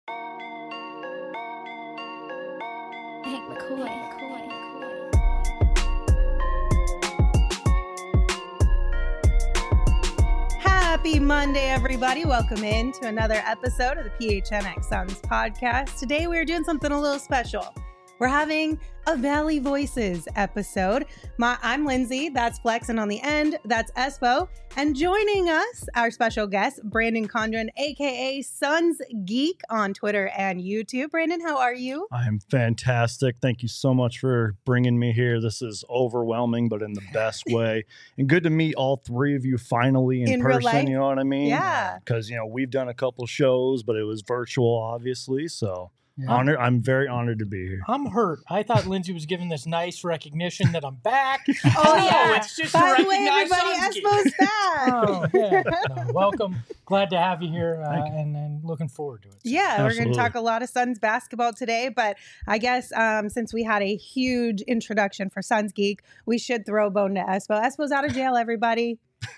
Hank McCoy. Happy Monday, everybody. Welcome in to another episode of the PHNX Suns podcast. Today, we're doing something a little special. We're having a Valley Voices episode. I'm Lindsay. That's Flex. And on the end, that's Espo. And joining us, our special guest, Brandon Condren, a.k.a. Suns Geek on Twitter and YouTube. Brandon, how are you? I'm fantastic. Thank you so much for bringing me here. This is overwhelming, but in the best way. And good to meet all three of you finally in real person, life? you know what I mean? Yeah. Because, we've done a couple shows, but it was virtual, obviously. So Yeah. honored. I'm very honored to be here. I'm hurt. I thought Lindsay was giving this nice recognition that I'm back. Oh, yeah. It's just By to the way, recognize everybody, Suns Geek. Espo's back. Oh, yeah. No, welcome. Glad to have you here and looking forward to it. Yeah, we're going Absolutely. to talk a lot of Suns basketball today, but I guess since we had a huge introduction for Suns Geek, we should throw a bone to Espo. Espo's out of jail, everybody.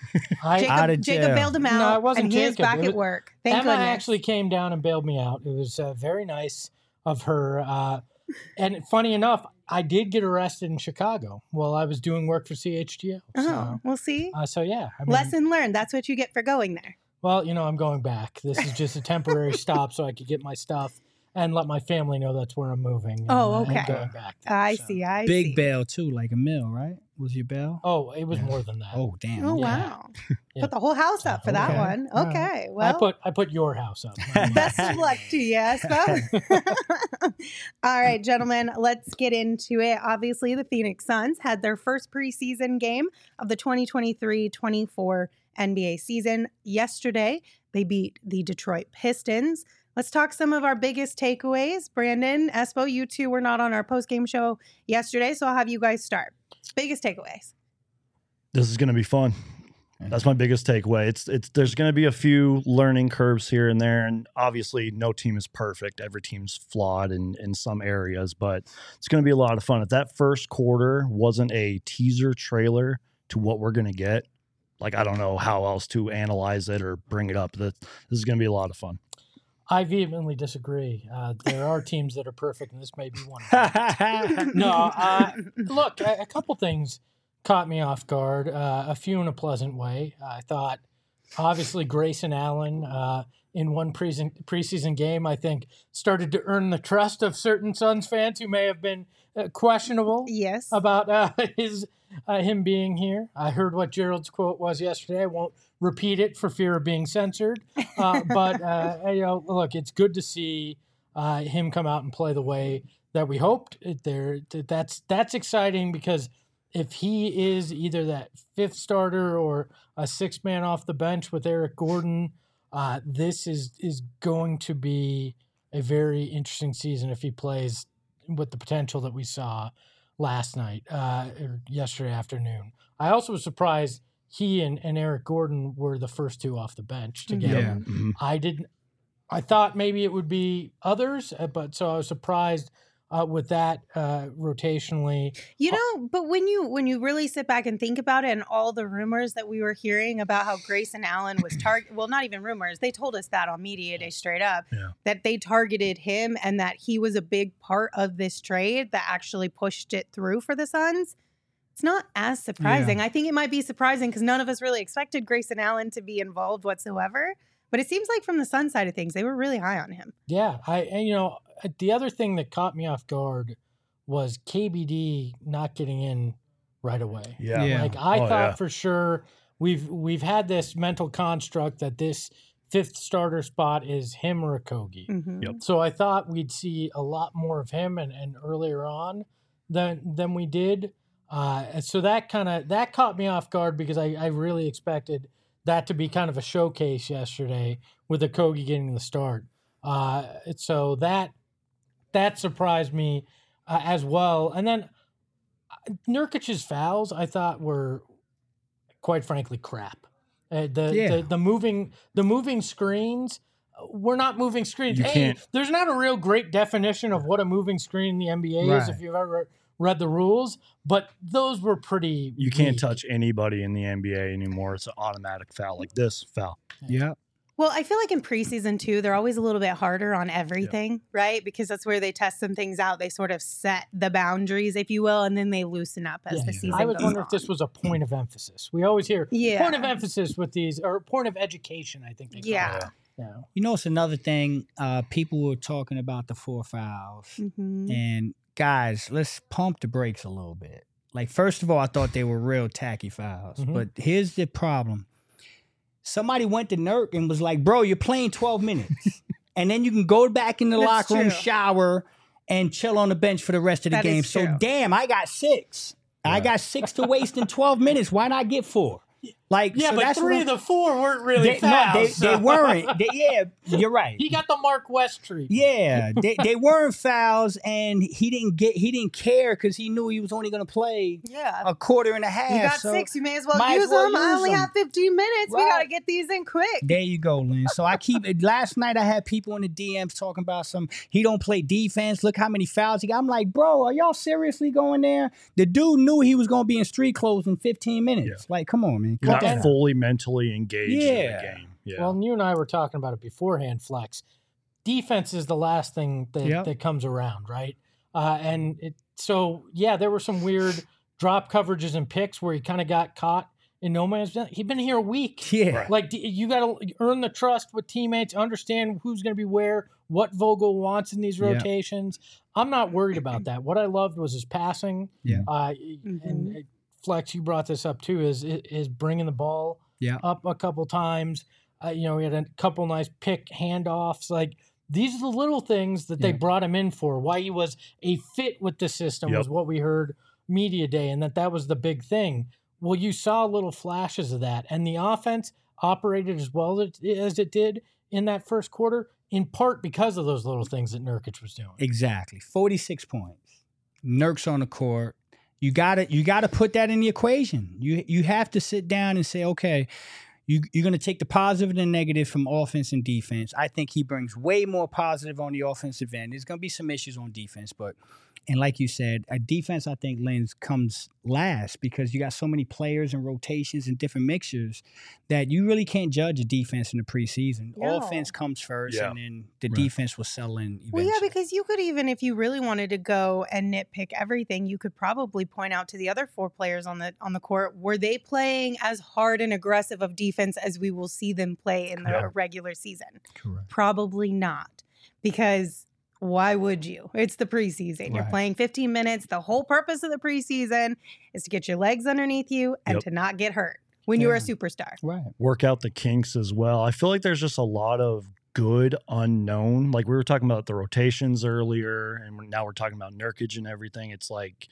I, Jacob bailed him out, No, it wasn't and he is Jacob. back It at was- work. Thank Emma goodness. actually came down and bailed me out. It was very nice of her. And funny enough, I did get arrested in Chicago while I was doing work for CHGO. Oh, we'll see. So yeah. I mean, Lesson learned. That's what you get for going there. Well, I'm going back. This is just a temporary stop so I could get my stuff and let my family know that's where I'm moving. And, Oh, and okay. going back there, I so. see. I Big see. bail too, like a mill, right? Was your bail? Oh, it was more than that. Oh, damn. Oh, Yeah. wow. Yeah. Put the whole house up for that Okay. one. All right. Okay. Well, I put your house up. best of luck to you, Espo. All right, gentlemen, let's get into it. Obviously, the Phoenix Suns had their first preseason game of the 2023-24 NBA season yesterday. They beat the Detroit Pistons. Let's talk some of our biggest takeaways. Brandon, Espo, you two were not on our post-game show yesterday, so I'll have you guys start. Biggest takeaways. This is going to be fun. That's my biggest takeaway. It's there's going to be a few learning curves here and there, and obviously no team is perfect. Every team's flawed in some areas, but it's going to be a lot of fun. If that first quarter wasn't a teaser trailer to what we're going to get, like I don't know how else to analyze it or bring it up. This is going to be a lot of fun. I vehemently disagree. There are teams that are perfect, and this may be one of them. No, look, a couple things caught me off guard, a few in a pleasant way. I thought, obviously, Grayson Allen in one preseason game, I think, started to earn the trust of certain Suns fans who may have been questionable Yes. about him being here. I heard what Gerald's quote was yesterday. I won't repeat it for fear of being censored. But look, it's good to see him come out and play the way that we hoped. That's exciting because if he is either that fifth starter or a sixth man off the bench with Eric Gordon, this is going to be a very interesting season if he plays with the potential that we saw last night or yesterday afternoon. I also was surprised he and Eric Gordon were the first two off the bench together. Yeah. Mhm. I thought maybe it would be others, but so I was surprised with that rotationally. But when you really sit back and think about it, and all the rumors that we were hearing about how Grayson Allen was well, not even rumors, they told us that on Media Day straight up, that they targeted him and that he was a big part of this trade that actually pushed it through for the Suns. It's not as surprising. I think it might be surprising because none of us really expected Grayson Allen to be involved whatsoever. But it seems like from the Suns side of things, they were really high on him. Yeah, the other thing that caught me off guard was KBD not getting in right away. Yeah. Yeah. Like I Oh, thought yeah. for sure we've had this mental construct that this fifth starter spot is him or Okogie. Mhm. Yep. So I thought we'd see a lot more of him and earlier on than we did. So that caught me off guard because I really expected that to be kind of a showcase yesterday with Okogie getting the start. So that surprised me as well. And then Nurkic's fouls I thought were quite frankly crap. The moving screens. We're not moving screens. You can't. There's not a real great definition of what a moving screen in the NBA is Right. if you've ever read the rules, but those were pretty. You can't weak. touch anybody in the NBA anymore. It's an automatic foul like this foul. Yeah. Well, I feel like in preseason too, they're always a little bit harder on everything, right? Because that's where they test some things out. They sort of set the boundaries, if you will, and then they loosen up as the season I was goes wondering on. if this was a point of emphasis. We always hear point of emphasis with these, or point of education, I think they call it. Yeah. You know, it's another thing. People were talking about the 4 fouls. Mm-hmm. And guys, let's pump the brakes a little bit. Like, first of all, I thought they were real tacky fouls. Mhm. But here's the problem. Somebody went to Nurk and was like, bro, you're playing 12 minutes. And then you can go back in the That's locker room, true. shower, and chill on the bench for the rest of the That game. is So, true. damn, I got 6. I got 6 to waste in 12 minutes. Why not get 4? Like, Yeah, so but that's 3 what of the 4 weren't really they, fouls. they weren't. Yeah, you're right. He got the Mark West treatment. Yeah, they weren't fouls, and he didn't care because he knew he was only going to play a quarter and a half. You got so 6. You may as well might use as well them. I use only them. have 15 minutes. We Right. got to get these in quick. There you go, Lynn. So I keep it. Last night I had people in the DMs talking about he don't play defense. Look how many fouls he got. I'm like, bro, are y'all seriously going there? The dude knew he was going to be in street clothes in 15 minutes. Yeah. Like, come on, man. You're Cut that not out. fully mentally engaged in the game. Yeah. Well, you and I were talking about it beforehand, Flex. Defense is the last thing that comes around, right? So there were some weird drop coverages and picks where he kind of got caught in no man's land. He'd been here a week. Yeah. Right. Like, you got to earn the trust with teammates, understand who's going to be where, what Vogel wants in these rotations. I'm not worried about that. What I loved was his passing. Yeah. And Flex, you brought this up too, is bringing the ball up a couple times. We had a couple nice pick handoffs. Like, these are the little things that they brought him in for. Why he was a fit with the system was what we heard media day, and that was the big thing. Well, you saw little flashes of that, and the offense operated as well as it did in that first quarter, in part because of those little things that Nurkic was doing. Exactly. 46 points. Nurk's on the court. You gotta put that in the equation. You have to sit down and say, okay, you're going to take the positive and the negative from offense and defense. I think he brings way more positive on the offensive end. There's going to be some issues on defense, and like you said, a defense, I think, Lens, comes last because you got so many players and rotations and different mixtures that you really can't judge a defense in the preseason. No. Offense comes first, and then the defense will settle in eventually. Well, yeah, because you could even, if you really wanted to go and nitpick everything, you could probably point out to the other 4 players on the court, were they playing as hard and aggressive of defense as we will see them play in the regular season? Correct. Probably not, because why would you? It's the preseason. You're playing 15 minutes. The whole purpose of the preseason is to get your legs underneath you and to not get hurt when you're a superstar. Right. Work out the kinks as well. I feel like there's just a lot of good unknown. Like, we were talking about the rotations earlier, and now we're talking about Nurkic and everything. It's like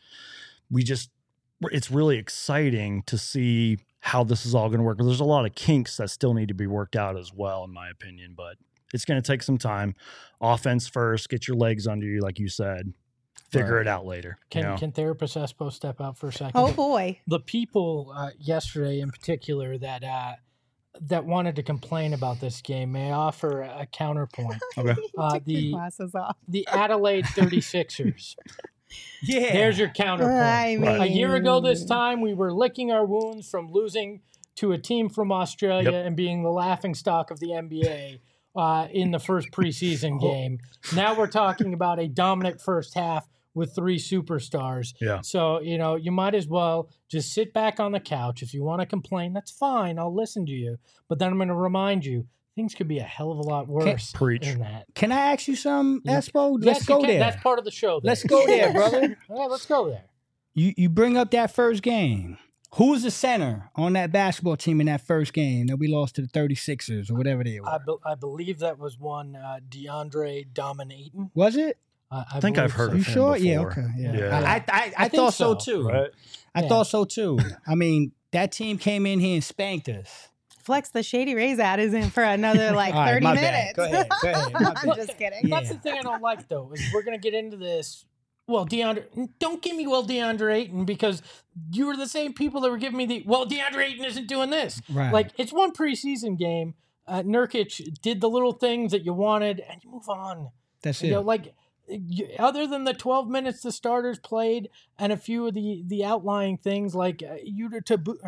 it's really exciting to see how this is all going to work. There's a lot of kinks that still need to be worked out as well, in my opinion, but it's going to take some time. Offense first, get your legs under you, like you said. Figure it out later. Can Therapist Espo step out for a second? Oh, boy. The people yesterday in particular that wanted to complain about this game, may I offer a counterpoint? Okay. Take your glasses off. The Adelaide 36ers. Yeah. There's your counterpoint. I mean, A year ago this time, we were licking our wounds from losing to a team from Australia and being the laughingstock of the NBA in the first preseason game. Now we're talking about a dominant first half with 3 superstars. Yeah. So, you might as well just sit back on the couch. If you want to complain, that's fine. I'll listen to you. But then I'm going to remind you, things could be a hell of a lot worse than that. Can I ask you some, Espo? Yes, Let's go there. That's part of the show. Let's go there, brother. All right, let's go there. You bring up that first game. Who was the center on that basketball team in that first game that we lost to the 36ers or whatever they were? I believe that was one DeAndre Dominatin. Was it? I think I've heard of him You sure? before. Yeah, okay. Yeah. I thought so too. Right? I thought so too. I mean, that team came in here and spanked us. Flex, the Shady Rays ad is in for another All right, 30 my minutes. bad. Go ahead. My I'm bad. just kidding. Yeah. That's the thing I don't like, though, is we're going to get into this. Well, don't give me DeAndre Ayton, because you were the same people that were giving me DeAndre Ayton isn't doing this. Right. Like, it's one preseason game. Nurkic did the little things that you wanted, and you move on. That's it. other than the 12 minutes the starters played and a few of the outlying things like Yuta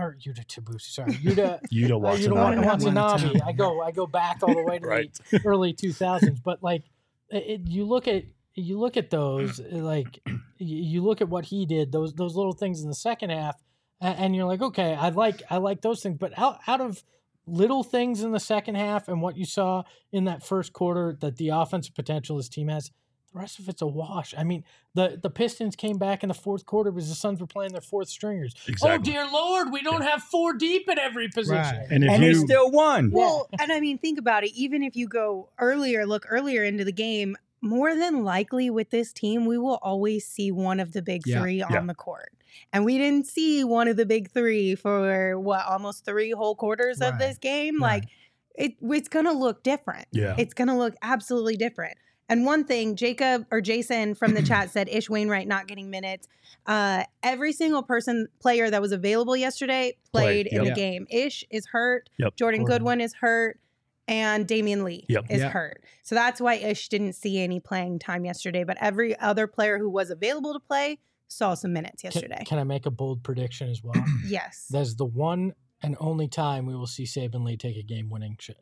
Watanabe. I go back all the way to the early 2000s, but like you look at those, like you look at what he did, those little things in the second half, and you're like, okay, I like those things, but out of little things in the second half and what you saw in that first quarter, that the offensive potential this team has, the rest of it's a wash. I mean, the Pistons came back in the fourth quarter because the Suns were playing their fourth stringers. Exactly. Oh, dear Lord, we don't have 4 deep at every position. Right. And they still won. Well, and I mean, think about it. Even if you look earlier into the game, more than likely with this team, we will always see one of the big 3 on the court. And we didn't see one of the big 3 for, almost 3 whole quarters of this game? Right. Like, it's going to look different. Yeah. It's going to look absolutely different. And one thing, Jason from the chat said, Ish Wainwright not getting minutes. Every single player that was available yesterday played in the game. Ish is hurt. Yep. Jordan Goodwin is hurt. And Damian Lee is hurt. So that's why Ish didn't see any playing time yesterday. But every other player who was available to play saw some minutes yesterday. Can I make a bold prediction as well? Yes. That's the one and only time we will see Saban Lee take a game-winning shot.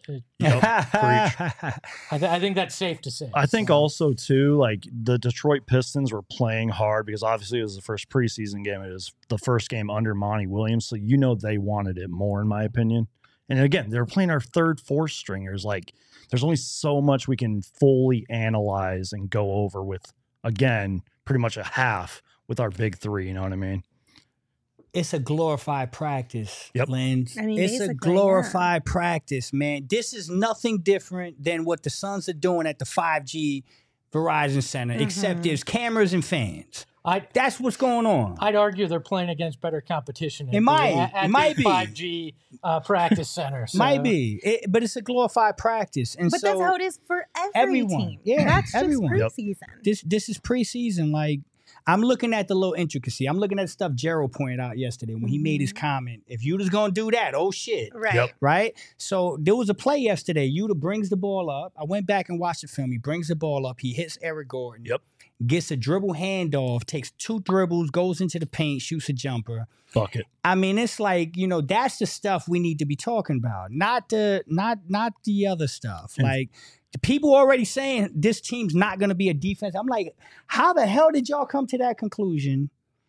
I think that's safe to say. I think also, too, like the Detroit Pistons were playing hard because obviously it was the first preseason game. It was the first game under Monty Williams. So, they wanted it more, in my opinion. And again, they were playing our third, fourth stringers. Like, there's only so much we can fully analyze and go over with, again, pretty much a half with our big 3. You know what I mean? It's a glorified practice, Lens. I mean, it's a glorified practice, man. This is nothing different than what the Suns are doing at the 5G Verizon Center, except there's cameras and fans. That's what's going on. I'd argue they're playing against better competition. It might be 5G practice center. So. Might be, but it's a glorified practice, and but that's how it is for every team. Yeah, that's everyone. Just preseason. This is preseason. Like, I'm looking at the little intricacy. I'm looking at stuff Gerald pointed out yesterday when he made his comment. If Yuda's gonna do that, oh shit, right? So there was a play yesterday. Yuta brings the ball up. I went back and watched the film. He brings the ball up. He hits Eric Gordon. Gets a dribble handoff, takes 2 dribbles, goes into the paint, shoots a jumper. Bucket. I mean, it's like, that's the stuff we need to be talking about, not the other stuff. Like, the people already saying this team's not going to be a defense. I'm like, how the hell did y'all come to that conclusion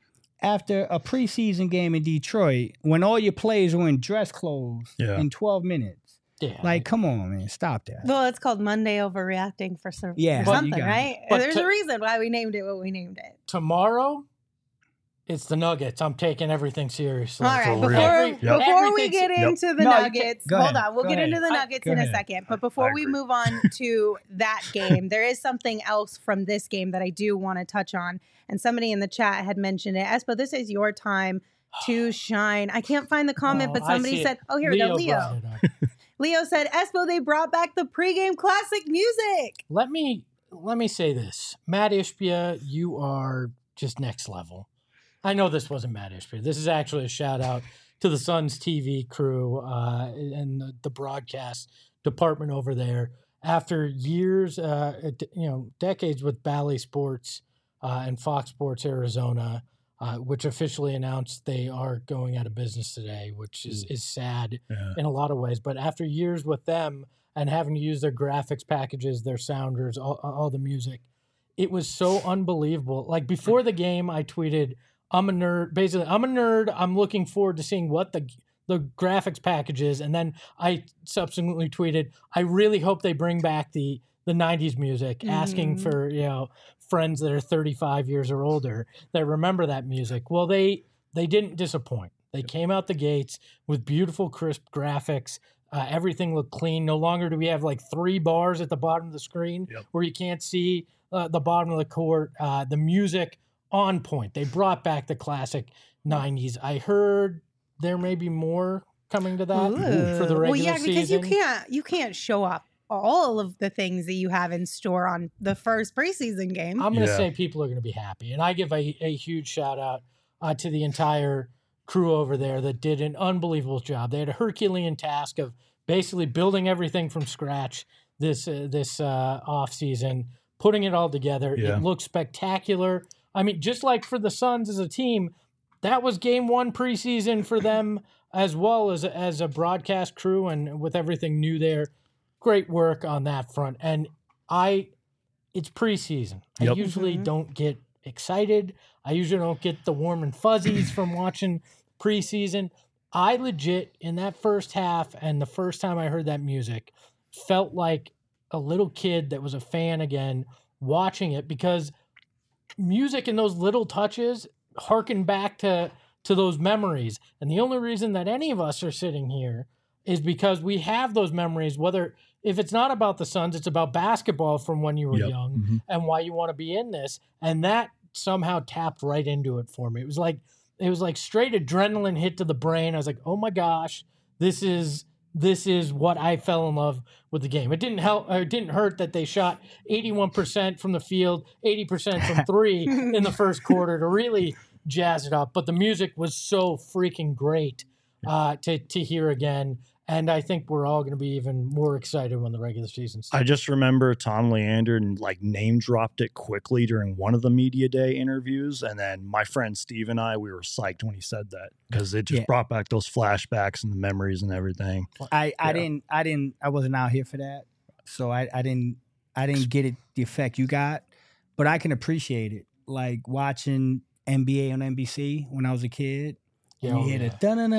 after a preseason game in Detroit when all your players were in dress clothes in 12 minutes? Yeah. Like, come on, man. Stop that. Well, it's called Monday overreacting for something, right? There's a reason why we named it what we named it. Tomorrow, it's the Nuggets. I'm taking everything seriously. All right. Before we get into the Nuggets, hold on. We'll get into the Nuggets in a second. But before we move on to that game, there is something else from this game that I do want to touch on. And somebody in the chat had mentioned it. Espo, this is your time to shine. I can't find the comment, but somebody said, here we go, Leo. Leo said, Espo, they brought back the pregame classic music. Let me say this. Matt Ishbia, you are just next level. I know this wasn't Matt Ishbia. This is actually a shout out to the Suns TV crew and the broadcast department over there. After years, decades with Bally Sports and Fox Sports Arizona, which officially announced they are going out of business today, which is sad in a lot of ways. But after years with them and having to use their graphics packages, their sounders, all the music, it was so unbelievable. Like, before the game, I tweeted, I'm a nerd. Basically, I'm a nerd. I'm looking forward to seeing what the graphics package is. And then I subsequently tweeted, I really hope they bring back the 90s music, asking for, friends that are 35 years or older that remember that music. Well, they didn't disappoint. They came out the gates with beautiful, crisp graphics. Everything looked clean. No longer do we have like 3 bars at the bottom of the screen where you can't see the bottom of the court. The music on point. They brought back the classic 90s. I heard there may be more coming to that for the regular season. Because you can't show off all of the things that you have in store on the first preseason game. I'm going to say people are going to be happy. And I give a huge shout out to the entire crew over there that did an unbelievable job. They had a Herculean task of basically building everything from scratch this off season, putting it all together. Yeah. It looks spectacular. I mean, just like for the Suns as a team, that was game one preseason for them as well as a broadcast crew and with everything new there. Great work on that front. And it's preseason. I usually don't get excited. I usually don't get the warm and fuzzies from watching preseason. I legit, in that first half and the first time I heard that music, felt like a little kid that was a fan again watching it, because music and those little touches harken back to those memories. And the only reason that any of us are sitting here is because we have those memories, whether if it's not about the Suns, it's about basketball from when you were young and why you want to be in this. And that somehow tapped right into it for me. It was like straight adrenaline hit to the brain. I was like, oh my gosh, this is what I fell in love with the game. It didn't hurt that they shot 81% from the field, 80% from three in the first quarter to really jazz it up. But the music was so freaking great to hear again. And I think we're all going to be even more excited when the regular season starts. I just remember Tom Leander name dropped it quickly during one of the media day interviews. And then my friend Steve and I, we were psyched when he said that, because it just brought back those flashbacks and the memories and everything. I wasn't out here for that. So I didn't get it the effect you got, but I can appreciate it. Like watching NBA on NBC when I was a kid. You hear the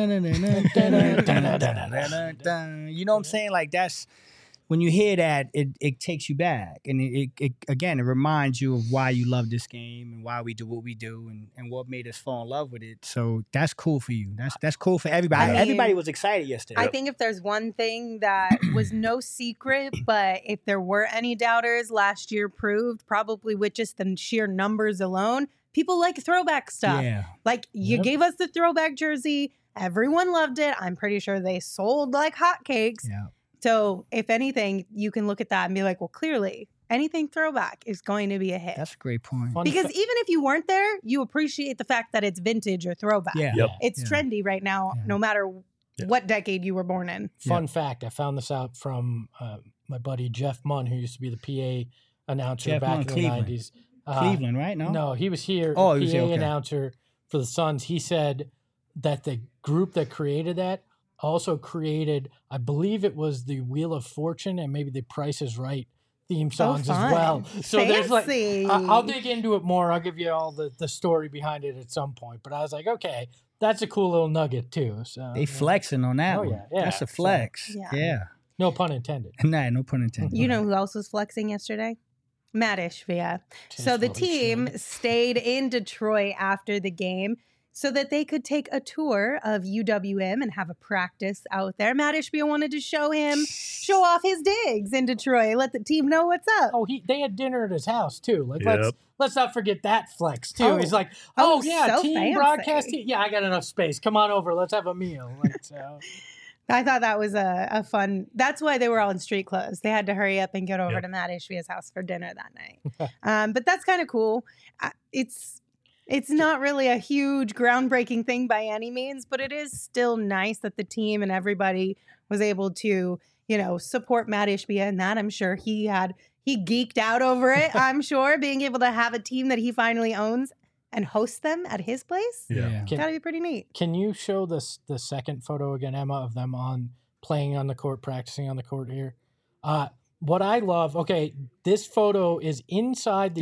you know what I'm saying? Like that's when you hear that, it takes you back, and it again, it reminds you of why you love this game and why we do what we do and what made us fall in love with it. So that's cool for you. That's cool for everybody. Everybody was excited yesterday. I think if there's one thing that was no secret, but if there were any doubters, last year proved, probably with just the sheer numbers alone, people like throwback stuff. Yeah. Like you gave us the throwback jersey. Everyone loved it. I'm pretty sure they sold like hotcakes. Yeah. So if anything, you can look at that and be like, well, clearly anything throwback is going to be a hit. That's a great point. Because even if you weren't there, you appreciate the fact that it's vintage or throwback. Yeah. Yep. It's trendy right now, no matter what decade you were born in. Fun fact, I found this out from my buddy Jeff Munn, who used to be the PA announcer back in the Cleveland. 90s. Cleveland, right? No, he was here. Oh, PA he was here, okay. announcer for the Suns. He said that the group that created that also created, I believe it was the Wheel of Fortune and maybe the Price is Right theme songs as well. So there's like, I'll dig into it more. I'll give you all the story behind it at some point. But I was like, okay, that's a cool little nugget too. So they flexing on that one. Yeah. That's a flex. So, yeah. No pun intended. Nah, no pun intended. You know who else was flexing yesterday? Matt Ishbia. So the team stayed in Detroit after the game so that they could take a tour of UWM and have a practice out there. Matt Ishbia wanted to show off his digs in Detroit, let the team know what's up. Oh, they had dinner at his house too. Like let's not forget that flex too. Oh. He's like, yeah, so team fancy. broadcast. Yeah, I got enough space. Come on over. Let's have a meal. Like, so. I thought that was a fun. That's why they were all in street clothes. They had to hurry up and get over to Matt Ishbia's house for dinner that night. But that's kind of cool. It's not really a huge groundbreaking thing by any means, but it is still nice that the team and everybody was able to, support Matt Ishbia in that. I'm sure he geeked out over it. I'm sure being able to have a team that he finally owns and host them at his place. Yeah. Gotta be pretty neat. Can you show the second photo again, Emma, of them playing on the court, practicing on the court here? What I love, this photo is inside the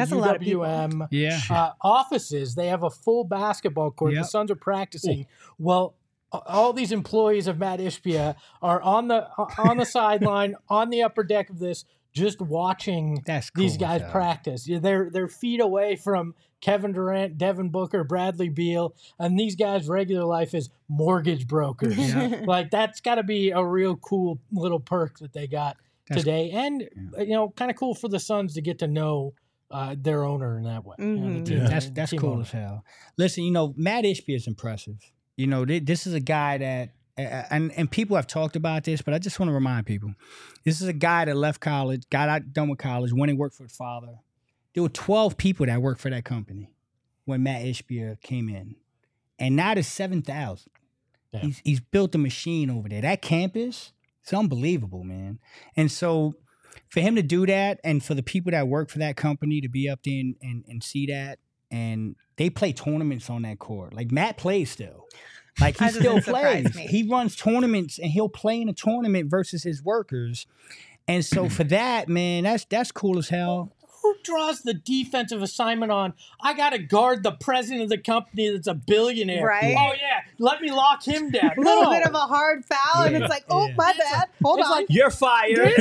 UWM offices. They have a full basketball court. The Suns are practicing. Ooh. Well, all these employees of Matt Ishbia are on the sideline, on the upper deck of this, just watching these guys practice. They're feet away from Kevin Durant, Devin Booker, Bradley Beal, and these guys' regular life is mortgage brokers. Like that's got to be a real cool little perk that they got today, and kind of cool for the Suns to get to know their owner in that way. Mm-hmm. That's cool as hell. Listen, Matt Ishbia is impressive. This is a guy that. And people have talked about this, but I just want to remind people, this is a guy that left college, got out done with college, went and worked for his father. There were 12 people that worked for that company when Matt Ishbia came in. And now there's 7,000. Yeah. He's built a machine over there. That campus, it's unbelievable, man. And so for him to do that, and for the people that work for that company to be up there and see that, and they play tournaments on that court. Like Matt plays still. Like he still plays. He runs tournaments and he'll play in a tournament versus his workers. And so for that, man, that's cool as hell. Who draws the defensive assignment on, I got to guard the president of the company that's a billionaire? Right. Oh, yeah. Let me lock him down. A little bit of a hard foul, and it's like, oh, my bad. Hold on. Like, you're fired.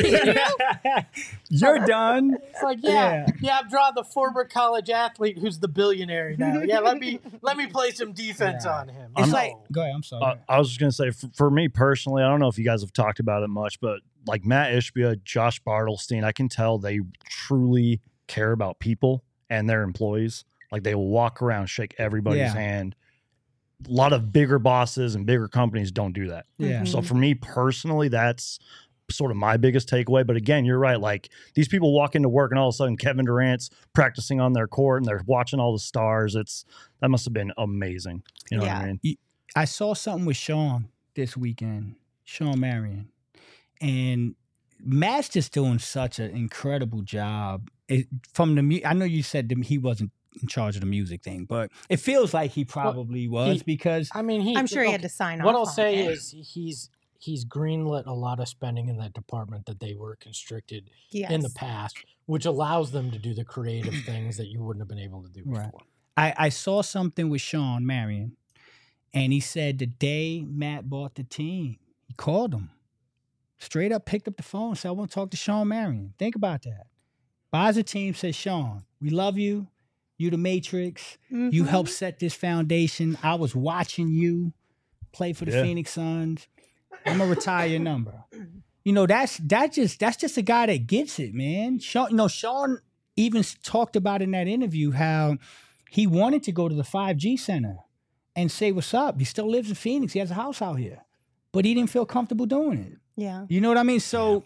You're done. It's like, yeah, I'm drawing the former college athlete who's the billionaire now. Yeah, let me play some defense on him. It's like, go ahead, I'm sorry. I was just going to say, for me personally, I don't know if you guys have talked about it much, but like Matt Ishbia, Josh Bartelstein, I can tell they truly care about people and their employees. Like they will walk around, shake everybody's hand. A lot of bigger bosses and bigger companies don't do that. Yeah. So for me personally, that's sort of my biggest takeaway. But again, you're right. Like these people walk into work and all of a sudden Kevin Durant's practicing on their court and they're watching all the stars. That must have been amazing. You know what I mean? I saw something with Sean this weekend, Sean Marion, and Matt's just doing such an incredible job. I know you said he wasn't in charge of the music thing, but it feels like he probably was because I'm sure he had to sign off. What I'll say is he's greenlit a lot of spending in that department that they were constricted in the past, which allows them to do the creative things that you wouldn't have been able to do before. I saw something with Sean Marion, and he said the day Matt bought the team, he called him. Straight up picked up the phone and said, I want to talk to Sean Marion. Think about that. Buys a team, says, Sean, we love you. You the Matrix. Mm-hmm. You helped set this foundation. I was watching you play for the Phoenix Suns. I'm going to retire your number. You know, that's just a guy that gets it, man. Sean even talked about in that interview how he wanted to go to the 5G Center and say, what's up? He still lives in Phoenix. He has a house out here. But he didn't feel comfortable doing it. Yeah. You know what I mean? So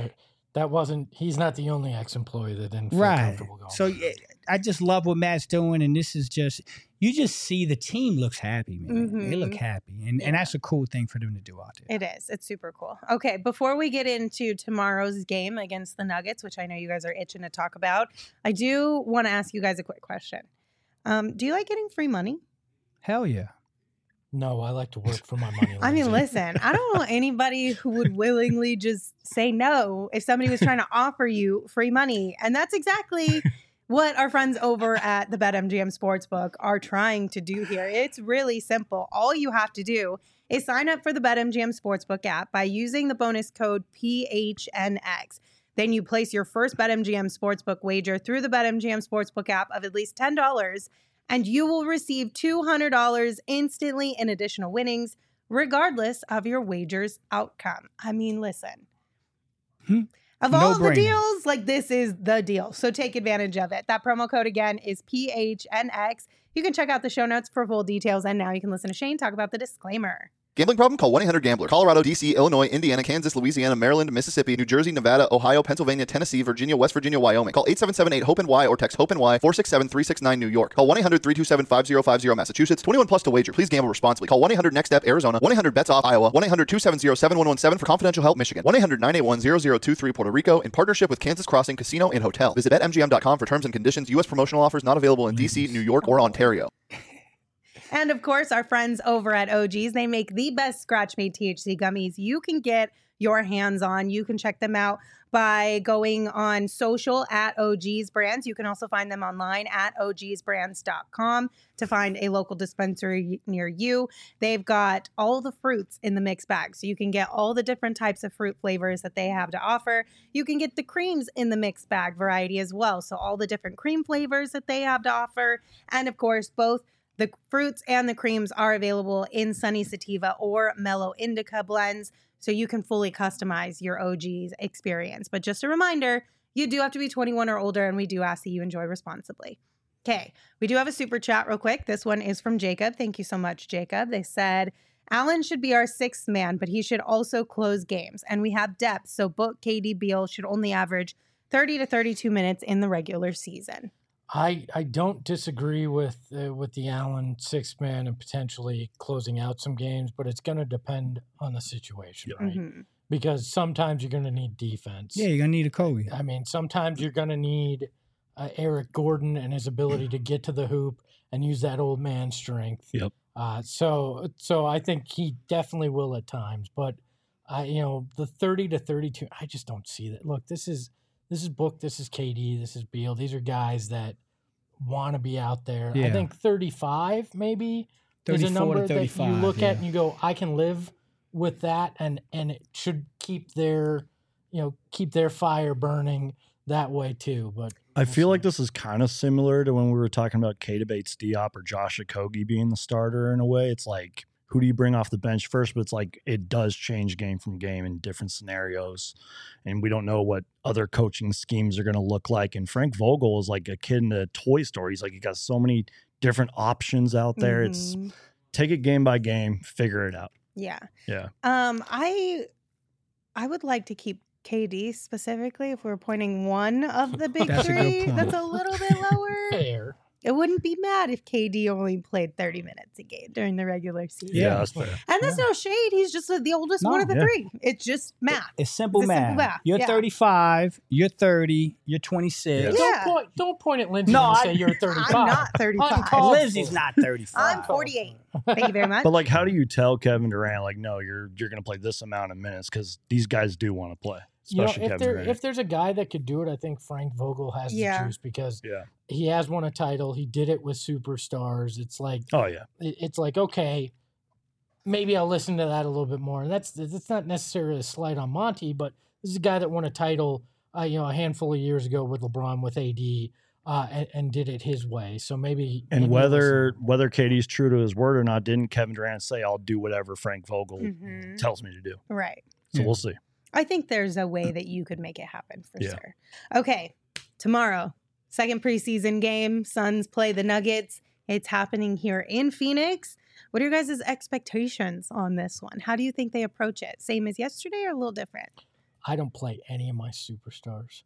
he's not the only ex-employee that didn't feel comfortable going. So I just love what Matt's doing, and this is you just see the team looks happy, man. Mm-hmm. They look happy, and that's a cool thing for them to do out there. It is. It's super cool. Okay, before we get into tomorrow's game against the Nuggets, which I know you guys are itching to talk about, I do want to ask you guys a quick question. Do you like getting free money? Hell yeah. No, I like to work for my money. I mean, listen, I don't know anybody who would willingly just say no if somebody was trying to offer you free money. And that's exactly what our friends over at the BetMGM Sportsbook are trying to do here. It's really simple. All you have to do is sign up for the BetMGM Sportsbook app by using the bonus code PHNX. Then you place your first BetMGM Sportsbook wager through the BetMGM Sportsbook app of at least $10, and you will receive $200 instantly in additional winnings, regardless of your wager's outcome. I mean, listen. Of all the deals, like this is the deal. So take advantage of it. That promo code again is PHNX. You can check out the show notes for full details. And now you can listen to Shane talk about the disclaimer. Gambling problem? Call 1-800-GAMBLER. Colorado, D.C., Illinois, Indiana, Kansas, Louisiana, Maryland, Mississippi, New Jersey, Nevada, Ohio, Pennsylvania, Tennessee, Virginia, West Virginia, Wyoming. Call 877-8-HOPE-NY or text HOPE-NY 467-369 New York. Call 1-800-327-5050 Massachusetts. 21 plus to wager. Please gamble responsibly. Call 1-800-NEXT-STEP Arizona. 1-800-BETS-OFF Iowa. 1-800-270-7117 for confidential help Michigan. 1-800-981-0023 Puerto Rico in partnership with Kansas Crossing Casino and Hotel. Visit BetMGM.com for terms and conditions. U.S. promotional offers not available in D.C., New York, or Ontario. And of course, our friends over at OG's, they make the best scratch-made THC gummies you can get your hands on. You can check them out by going on social at OG's Brands. You can also find them online at ogsbrands.com to find a local dispensary near you. They've got all the fruits in the mixed bag, so you can get all the different types of fruit flavors that they have to offer. You can get the creams in the mixed bag variety as well, so all the different cream flavors that they have to offer. And of course, both the fruits and the creams are available in Sunny Sativa or Mellow Indica blends, so you can fully customize your OG's experience. But just a reminder, you do have to be 21 or older, and we do ask that you enjoy responsibly. Okay, we do have a super chat real quick. This one is from Jacob. Thank you so much, Jacob. They said, Allen should be our sixth man, but he should also close games. And we have depth, so book KD Beal should only average 30 to 32 minutes in the regular season. I don't disagree with the Allen sixth man and potentially closing out some games, but it's going to depend on the situation, right? Mm-hmm. because sometimes you're going to need defense. Yeah, you're gonna need a Kobe. I mean, sometimes you're going to need Eric Gordon and his ability to get to the hoop and use that old man strength. Yep. So I think he definitely will at times, but the 30 to 32, I just don't see that. Look, this is Book, this is KD, this is Beal. These are guys that want to be out there. Yeah. I think 35 maybe is a 34 to number that 35, you look at yeah. and you go, I can live with that, and it should keep their fire burning that way too. But I feel like this is kind of similar to when we were talking about Keita Bates-Diop or Josh Okogie being the starter in a way. It's like, who do you bring off the bench first? But it's like it does change game from game in different scenarios. And we don't know what other coaching schemes are going to look like. And Frank Vogel is like a kid in a toy store. He's like, he got so many different options out there. It's take it game by game, figure it out. Yeah. Yeah. I would like to keep KD specifically if we're pointing one of the big That's a good three. point. That's a little bit lower. fair. It wouldn't be mad if KD only played 30 minutes a game during the regular season. Yeah. That's fair. And that's no shade. He's just the oldest one of the yeah. three. It's just math. It's simple It's a math. simple math, You're yeah. 35. You're 30. You're 26. Yeah. Don't point at Lindsay No, and I- say you're 35. I'm not 35. Uncalled Lindsay's not 35. I'm 48. Thank you very much. But like, how do you tell Kevin Durant, like, no, you're going to play this amount of minutes? Because these guys do want to play, especially Kevin Durant. If there's a guy that could do it, I think Frank Vogel has the juice because Yeah. he has won a title. He did it with superstars. It's like, Oh, yeah. it's like, okay, maybe I'll listen to that a little bit more. And that's not necessarily a slight on Monty, but this is a guy that won a title, a handful of years ago with LeBron, with AD, and did it his way. So maybe. And maybe whether KD's true to his word or not, didn't Kevin Durant say, I'll do whatever Frank Vogel Mhm. tells me to do? Right. So Yeah. we'll see. I think there's a way that you could make it happen for Yeah. sure. Okay. Tomorrow, second preseason game. Suns play the Nuggets. It's happening here in Phoenix. What are your guys' expectations on this one? How do you think they approach it? Same as yesterday or a little different? I don't play any of my superstars.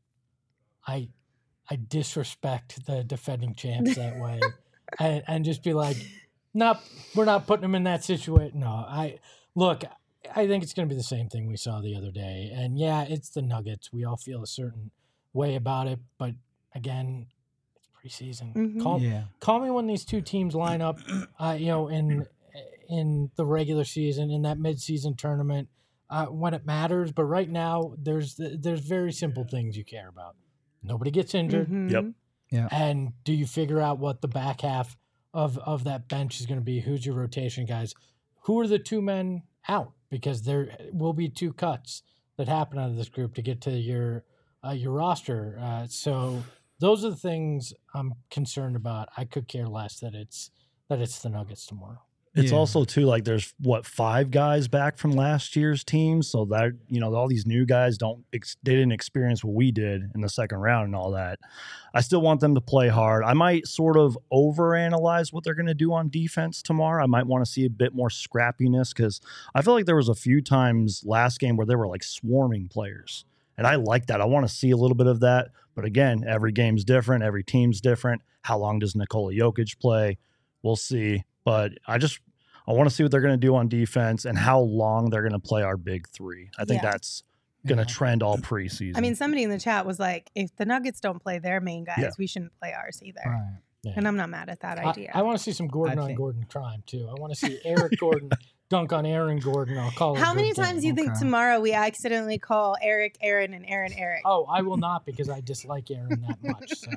I disrespect the defending champs that way, and just be like, nope, we're not putting them in that situation. No, I think it's going to be the same thing we saw the other day. And yeah, it's the Nuggets. We all feel a certain way about it, but again, it's preseason. Mhm. Call me when these two teams line up, in the regular season, in that midseason tournament, when it matters. But right now, there's very simple things you care about. Nobody gets injured. Mhm. Yep. Yeah. And do you figure out what the back half of that bench is going to be? Who's your rotation guys? Who are the two men out? Because there will be two cuts that happen out of this group to get to your roster. So those are the things I'm concerned about. I could care less that it's the Nuggets tomorrow. It's Yeah. also too like there's 5 guys back from last year's team, so that all these new guys they didn't experience what we did in the second round and all that. I still want them to play hard. I might sort of overanalyze what they're going to do on defense tomorrow. I might want to see a bit more scrappiness because I feel like there was a few times last game where they were like swarming players, and I like that. I want to see a little bit of that, but again, every game's different, every team's different. How long does Nikola Jokic play? We'll see. But I want to see what they're going to do on defense and how long they're going to play our big three. I think Yeah. that's going to trend all preseason. I mean, somebody in the chat was like, if the Nuggets don't play their main guys, Yeah. we shouldn't play ours either. Right. Yeah. And I'm not mad at that idea. I want to see some Gordon I on think- Gordon crime too. I want to see Eric Gordon dunk on Aaron Gordon. I'll call it. How a many good times do game. you think Okay. tomorrow we accidentally call Eric Aaron and Aaron Eric? Oh, I will not because I dislike Aaron that much. So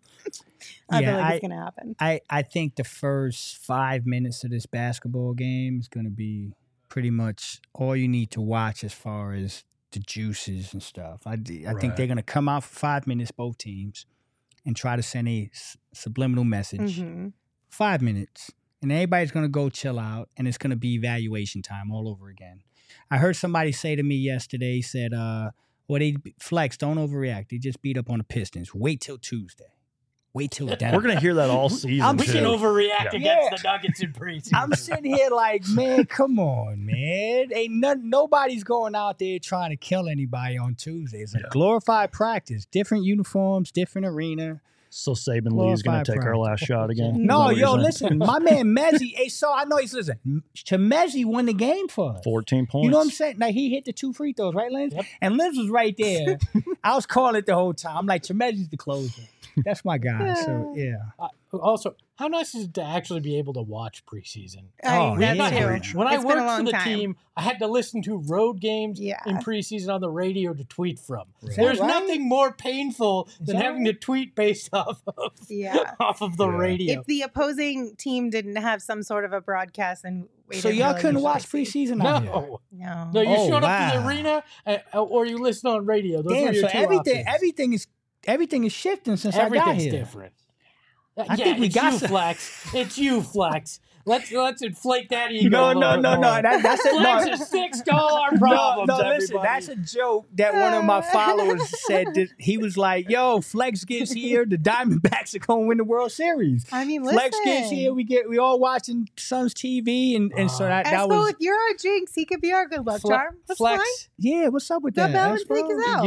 I feel Yeah, like it's going to happen. I think the first 5 minutes of this basketball game is going to be pretty much all you need to watch as far as the juices and stuff. I think Right. they're going to come out for 5 minutes, both teams, and try to send a subliminal message. Mhm. 5 minutes. And everybody's going to go chill out, and it's going to be evaluation time all over again. I heard somebody say to me yesterday, said, Flex, don't overreact. They just beat up on the Pistons. Wait till Tuesday. Wait till then. we're going to hear that all season. we too. can overreact Yeah. against the Nuggets in preseason. I'm sitting here like, man, come on, man. Nobody's going out there trying to kill anybody on Tuesday. It's a glorified practice. Different uniforms, different arena. So Saban Lee's going to take our last shot again? No, yo, listen, my man Mezzi, I know he's listening. Mezzi won the game for us. 14 points. You know what I'm saying? Like, he hit the 2 free throws, right, Lance? Yep. And Liz was right there. I was calling it the whole time. I'm like, Chemezzi's the closer. That's my guy. So, yeah. Also, how nice is it to actually be able to watch preseason? That too. When I It's been a worked long for the time. team, I had to listen to road games in preseason on the radio to tweet from. There's nothing more painful than having to tweet based off of the radio. If the opposing team didn't have some sort of a broadcast, and so y'all couldn't watch preseason out here? No, you showed up to the arena or you listened on radio. Those were your two options. Everything is shifting since I got here. Everything's different. I think we got you, Flex. It's you, Flex. Let's inflate that ego. No. That's a Flex is fixed all our problems. No, listen, that's a joke that one of my followers said. That he was like, "Yo, Flex gets here, the Diamondbacks are going to win the World Series." I mean, Flex gets here, we all watching Suns TV, and so that was. If you're a jinx, he could be our good luck charm. That's Flex. fine. Yeah, what's up with The that? balance take is out.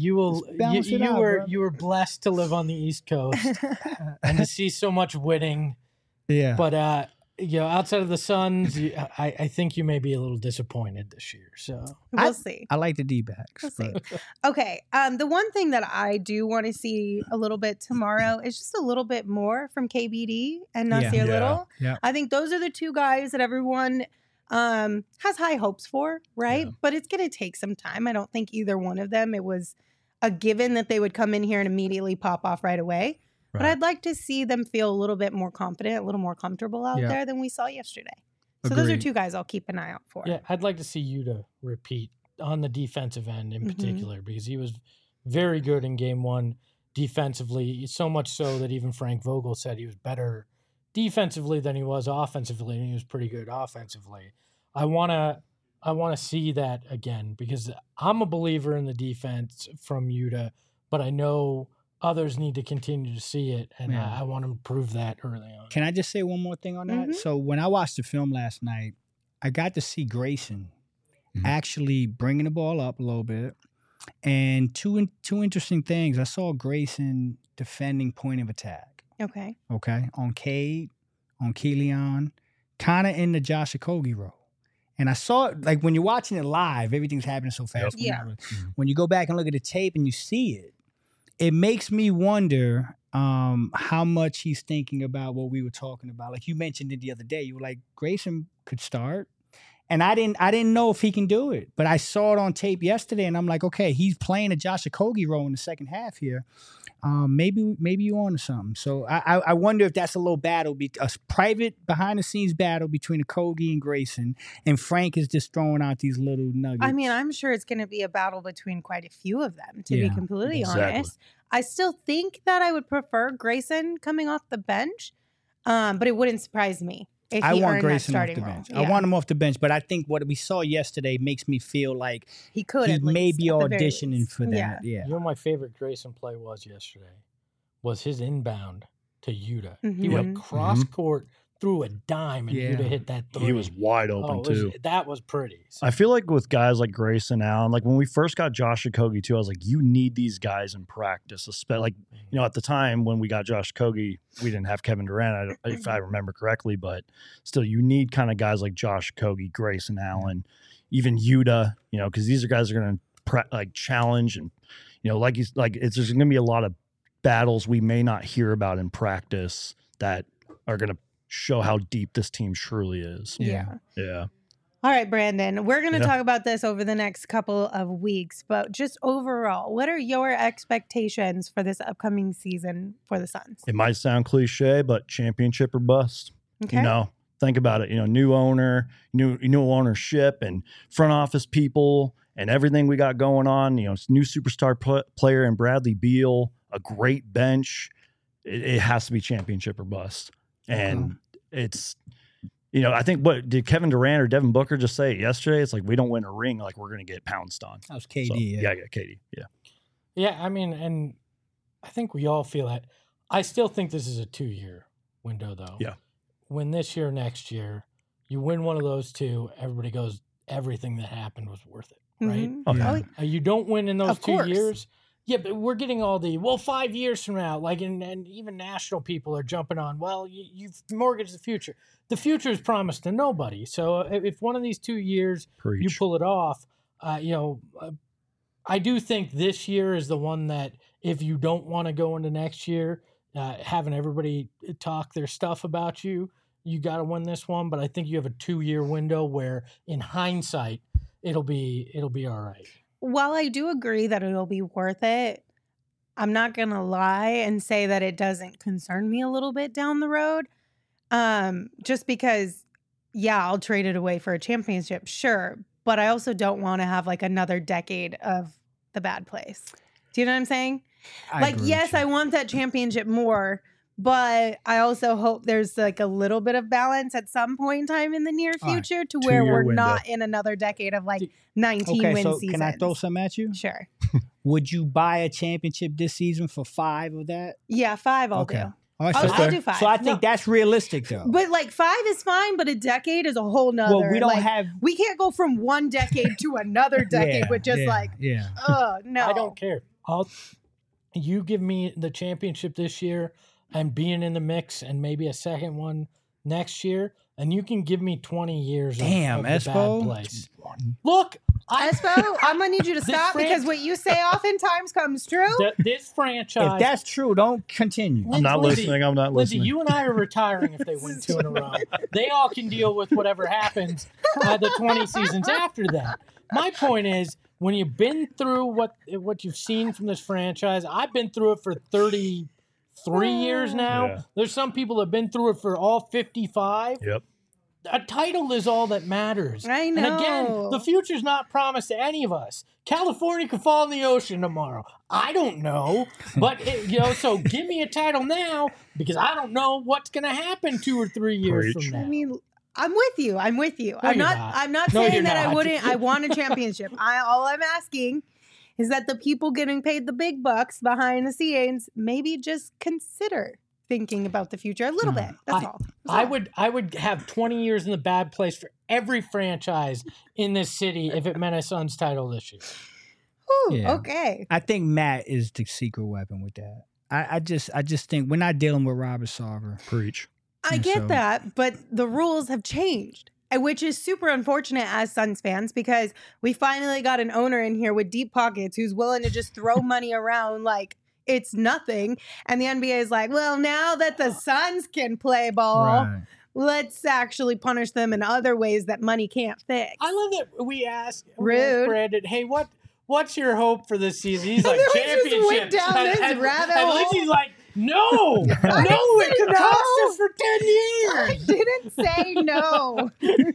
You were blessed to live on the East Coast and to see so much winning. Yeah, but outside of the Suns, I think you may be a little disappointed this year. So we'll see. I like the D-backs. We'll see. Okay. The one thing that I do want to see a little bit tomorrow is just a little bit more from KBD and Nasir Little. Yeah. I think those are the two guys that everyone has high hopes for, right? Yeah. But it's going to take some time. I don't think either one of them, it was a given that they would come in here and immediately pop off right away. But I'd like to see them feel a little bit more confident, a little more comfortable out there than we saw yesterday. So those are two guys I'll keep an eye out for. Yeah, I'd like to see you to repeat on the defensive end in particular, because he was very good in game one defensively, so much so that even Frank Vogel said he was better defensively than he was offensively, and he was pretty good offensively. I want to see that again, because I'm a believer in the defense from Yuta, but I know others need to continue to see it, and I want to prove that early on. Can I just say one more thing on that? Mm-hmm. So when I watched the film last night, I got to see Grayson actually bringing the ball up a little bit, and two interesting things. I saw Grayson defending point of attack. Okay. On Cade, on Keelan, kind of in the Josh Okogie role. And I saw it, like when you're watching it live, everything's happening so fast. Yeah. When you go back and look at the tape and you see it, it makes me wonder how much he's thinking about what we were talking about. Like you mentioned it the other day, you were like, Grayson could start. And I didn't know if he can do it. But I saw it on tape yesterday, and I'm like, okay, he's playing a Josh Okogie role in the second half here. Maybe you're on to something. So I wonder if that's a little battle, a private behind-the-scenes battle between Okogie and Grayson, and Frank is just throwing out these little nuggets. I mean, I'm sure it's going to be a battle between quite a few of them, to be completely honest. I still think that I would prefer Grayson coming off the bench, but it wouldn't surprise me. I want Grayson off the bench. Yeah. I want him off the bench, but I think what we saw yesterday makes me feel like he may be auditioning for that. Yeah. You know, my favorite Grayson play was yesterday was his inbound to Yuta. He went cross court, threw a dime, and Yuta hit that three. He was wide open too. That was pretty. So. I feel like with guys like Grayson Allen, like when we first got Josh Okogie too, I was like, you need these guys in practice. Like, you know, at the time when we got Josh Okogie, we didn't have Kevin Durant, if I remember correctly, but still, you need kind of guys like Josh Okogie, Grayson Allen, even Yuta, you know, because these are guys that are going to challenge, and you know, there's going to be a lot of battles we may not hear about in practice that are going to show how deep this team truly is. Yeah. All right, Brandon, we're going to talk about this over the next couple of weeks, but just overall, what are your expectations for this upcoming season for the Suns? It might sound cliche, but championship or bust. Okay. You know, think about it. You know, new owner, new ownership, and front office people, and everything we got going on. You know, new superstar player in Bradley Beal, a great bench. It has to be championship or bust. And it's, you know, I think what did Kevin Durant or Devin Booker just say yesterday? It's like, we don't win a ring, like we're going to get pounced on. That was KD. So, yeah, KD. Yeah. Yeah, I mean, and I think we all feel that. I still think this is a 2-year window, though. Yeah. Win this year, next year, you win one of those two, everybody goes, everything that happened was worth it, right? Mm-hmm. Okay. You don't win in those 2 years, Yeah, but we're getting all the 5 years from now, like, and even national people are jumping on. Well, you've mortgaged the future. The future is promised to nobody. So if one of these 2 years you pull it off, I do think this year is the one that if you don't want to go into next year, having everybody talk their stuff about you, you got to win this one. But I think you have a 2-year window where, in hindsight, it'll be all right. While I do agree that it'll be worth it, I'm not going to lie and say that it doesn't concern me a little bit down the road. Just because, yeah, I'll trade it away for a championship, sure. But I also don't want to have like another decade of the bad place. Do you know what I'm saying? Yes, I want that championship more, but I also hope there's like a little bit of balance at some point in time in the near future to where we're not in another decade of like 19 win seasons. Can I throw some at you? Sure. Would you buy a championship this season for 5 of that? Yeah, 5 I'll do. All right, I'll do 5. So I think that's realistic, though. But like 5 is fine, but a decade is a whole nother. Well, we don't have. We can't go from one decade to another decade with just oh no. I don't care. You give me the championship this year and being in the mix and maybe a second one next year, and you can give me 20 years of the bad place. Look, Espo, I'm gonna need you to stop because what you say oftentimes comes true. This franchise. If that's true, don't continue. I'm not listening. I'm not listening. Lindsay, you and I are retiring if they win 2 in a row. They all can deal with whatever happens the 20 seasons after that. My point is, when you've been through what you've seen from this franchise, I've been through it for 33 years now. Yeah. There's some people that have been through it for all 55. Yep. A title is all that matters. I know. And again, the future's not promised to any of us. California could fall in the ocean tomorrow. I don't know. But, so give me a title now because I don't know what's going to happen 2 or 3 years from now. I mean, I'm with you. No, I'm not No, saying you're that not. I want a championship. All I'm asking is that the people getting paid the big bucks behind the scenes maybe just consider thinking about the future a little bit. That's all. I would have 20 years in the bad place for every franchise in this city if it meant a Suns title this year. Ooh, okay. I think Matt is the secret weapon with that. I just think we're not dealing with Robert Sarver. Preach. I get that, but the rules have changed, which is super unfortunate as Suns fans because we finally got an owner in here with deep pockets who's willing to just throw money around like it's nothing. And the NBA is like, well, now that the Suns can play ball, let's actually punish them in other ways that money can't fix. I love that we asked Brandon, hey, what's your hope for this season? He's like, championship. Just went down this rabbit hole. And Lindsay's like, no, it could cost us for 10 years. I didn't say no.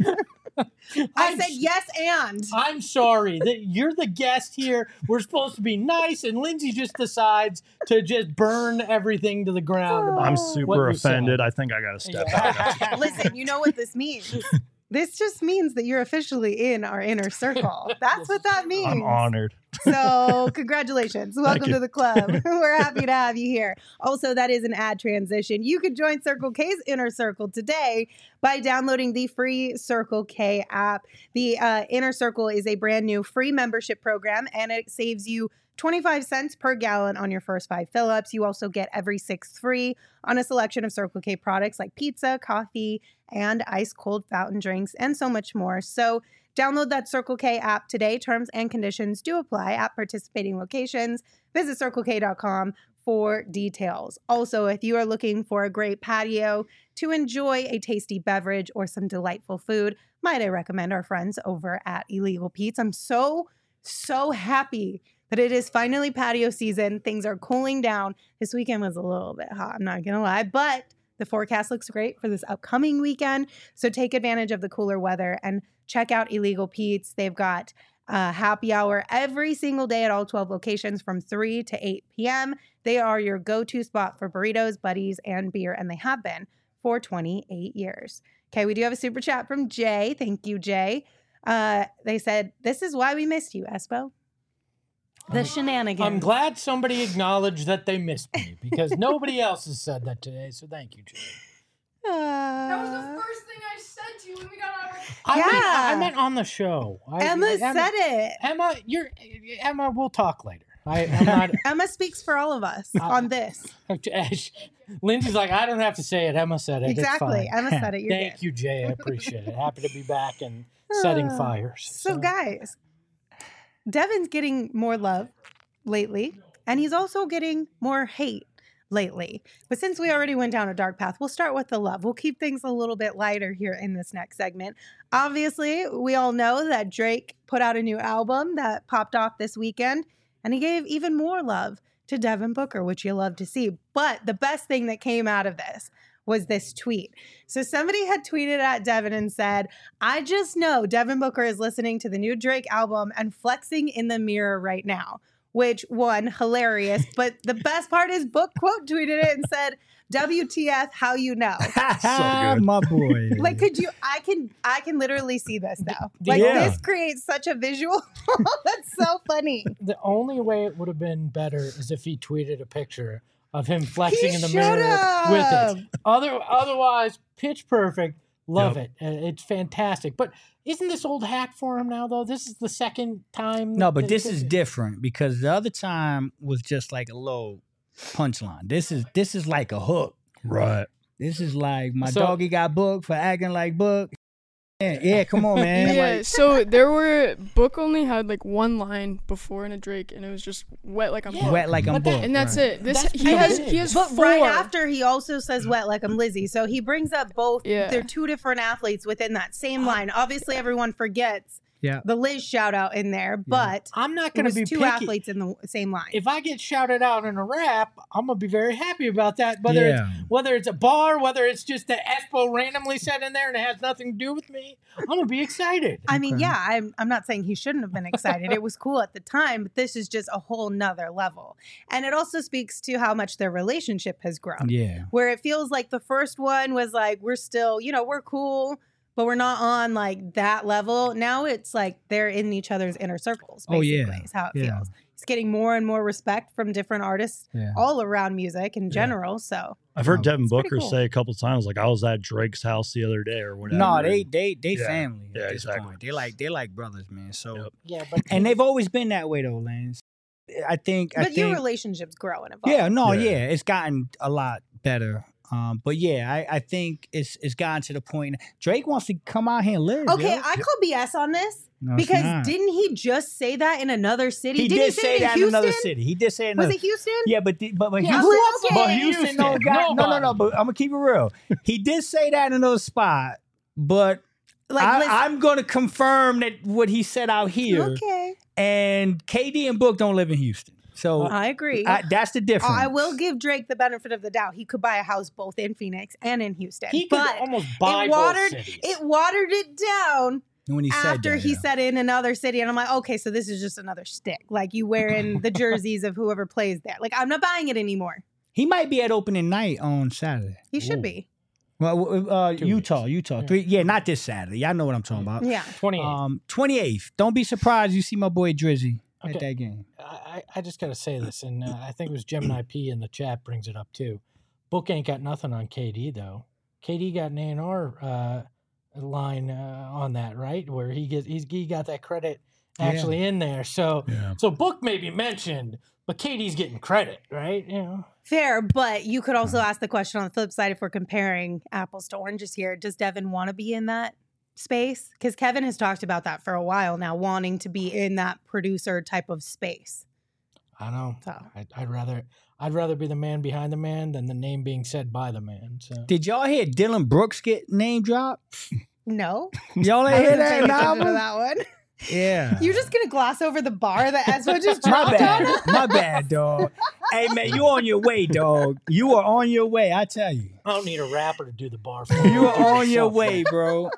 I said yes and. I'm sorry that you're the guest here. We're supposed to be nice, and Lindsay just decides to just burn everything to the ground. I'm super offended. I think I got to step out. Listen, you know what this means? This just means that you're officially in our inner circle. That's what that means. I'm honored. So congratulations. Welcome to the club. We're happy to have you here. Also, that is an ad transition. You can join Circle K's Inner Circle today by downloading the free Circle K app. The Inner Circle is a brand new free membership program, and it saves you 25 cents per gallon on your first 5 fill-ups. You also get every 6th free on a selection of Circle K products like pizza, coffee, and ice cold fountain drinks, and so much more. So download that Circle K app today. Terms and conditions do apply at participating locations. Visit CircleK.com for details. Also, if you are looking for a great patio to enjoy a tasty beverage or some delightful food, might I recommend our friends over at Illegal Pete's. I'm so happy that it is finally patio season. Things are cooling down. This weekend was a little bit hot, I'm not going to lie, but the forecast looks great for this upcoming weekend. So take advantage of the cooler weather and check out Illegal Pete's. They've got happy hour every single day at all 12 locations from 3 to 8 p.m. They are your go-to spot for burritos, buddies, and beer, and they have been for 28 years. Okay, we do have a super chat from Jay. Thank you, Jay. They said, this is why we missed you, Espo. The shenanigans. I'm glad somebody acknowledged that they missed me because nobody else has said that today. So thank you, Jay. That was the first thing I said to you when we got on. I meant on the show. Emma said it. Emma, we'll talk later. I'm not. Emma speaks for all of us on this. Lindsay's like, I don't have to say it. Emma said it. Exactly. It's fine. Emma said it. You're Thank good. you, Jay. I appreciate it. Happy to be back and setting fires. So, guys, Devin's getting more love lately, and he's also getting more hate lately. But since we already went down a dark path, we'll start with the love. We'll keep things a little bit lighter here in this next segment. Obviously, we all know that Drake put out a new album that popped off this weekend, and he gave even more love to Devin Booker, which you love to see. But the best thing that came out of this was this tweet. So somebody had tweeted at Devin and said, I just know Devin Booker is listening to the new Drake album and flexing in the mirror right now. Which, one, hilarious. But the best part is Book quote tweeted it and said, WTF, how you know? So good. My boy. Like, could you, I can literally see this though. Like, this creates such a visual. That's so funny. The only way it would have been better is if he tweeted a picture of him flexing He in the should mirror have. with it. Otherwise, pitch perfect. Love it. It's fantastic. But isn't this old hat for him now, though? This is the second time. No, but this is different because the other time was just like a little punchline. This is like a hook. Right. This is like my doggy got booked for acting like Book. Yeah, come on, man. Yeah, Like, so there were Book only had like one line before in a Drake, and it was just wet like I'm Book. wet like I'm Book. And that's right. it. This That's he has But four. right after, he also says wet like I'm Lizzie. So he brings up both. Yeah. They're two different athletes within that same line. Obviously, everyone forgets the Liz shout out in there, but I'm not it going to was be two picky. athletes in the same line. If I get shouted out in a rap, I'm gonna be very happy about that. Whether it's a bar, whether it's just that Espo randomly said in there and it has nothing to do with me, I'm gonna be excited. I mean, yeah, I'm not saying he shouldn't have been excited. It was cool at the time, but this is just a whole nother level. And it also speaks to how much their relationship has grown. Yeah. Where it feels like the first one was like, we're still, we're cool, but we're not on like that level. Now it's like they're in each other's inner circles, basically, is how it feels. He's getting more and more respect from different artists all around music in general. So I've heard Devin Booker cool. say a couple times, like, I was at Drake's house the other day or whatever. No, they family Yeah, at this exactly. point. They like brothers, man. So but and they've always been that way though, Lance. I think your relationship's growing. Evolve. Yeah, it's gotten a lot better. But yeah, I think it's gotten to the point Drake wants to come out here and live. Okay, yo. I call BS on this No, it's because not. didn't he just say that in another city? He Didn't did say it that in Houston? another city. He did say it. Was it Houston? Yeah, but Yeah, Houston, okay. but Houston, no, no. But I'm gonna keep it real. He did say that in another spot, but I'm gonna confirm that what he said out here. Okay. And KD and Book don't live in Houston, so I agree. That's the difference. I will give Drake the benefit of the doubt. He could buy a house both in Phoenix and in Houston. He could but almost buy both cities. It watered it down when he after said that, he said it in another city. And I'm like, okay, so this is just another stick. Like you wearing the jerseys of whoever plays there. Like I'm not buying it anymore. He might be at opening night on Saturday. He should be. Well, Utah. Yeah, not this Saturday. Y'all know what I'm talking about. Yeah. 28th. Don't be surprised you see my boy Drizzy at that game. I just got to say this, and I think it was Gemini P in the chat brings it up too. Book ain't got nothing on KD though. KD got an A&R line on that, right? Where he got that credit actually in there. So Book may be mentioned, but KD's getting credit, right? Fair, but you could also ask the question on the flip side if we're comparing apples to oranges here. Does Devin want to be in that space? Because Kevin has talked about that for a while now, wanting to be in that producer type of space. I know. So. I'd rather be the man behind the man than the name being said by the man. So. Did y'all hear Dylan Brooks get name dropped? No. Y'all ain't hear that album? That one. Yeah. You're just gonna gloss over the bar that Espo just My dropped on us? bad. My bad, dog. Hey, man, you on your way, dog. You are on your way, I tell you. I don't need a rapper to do the bar for me. You are on your way, bro.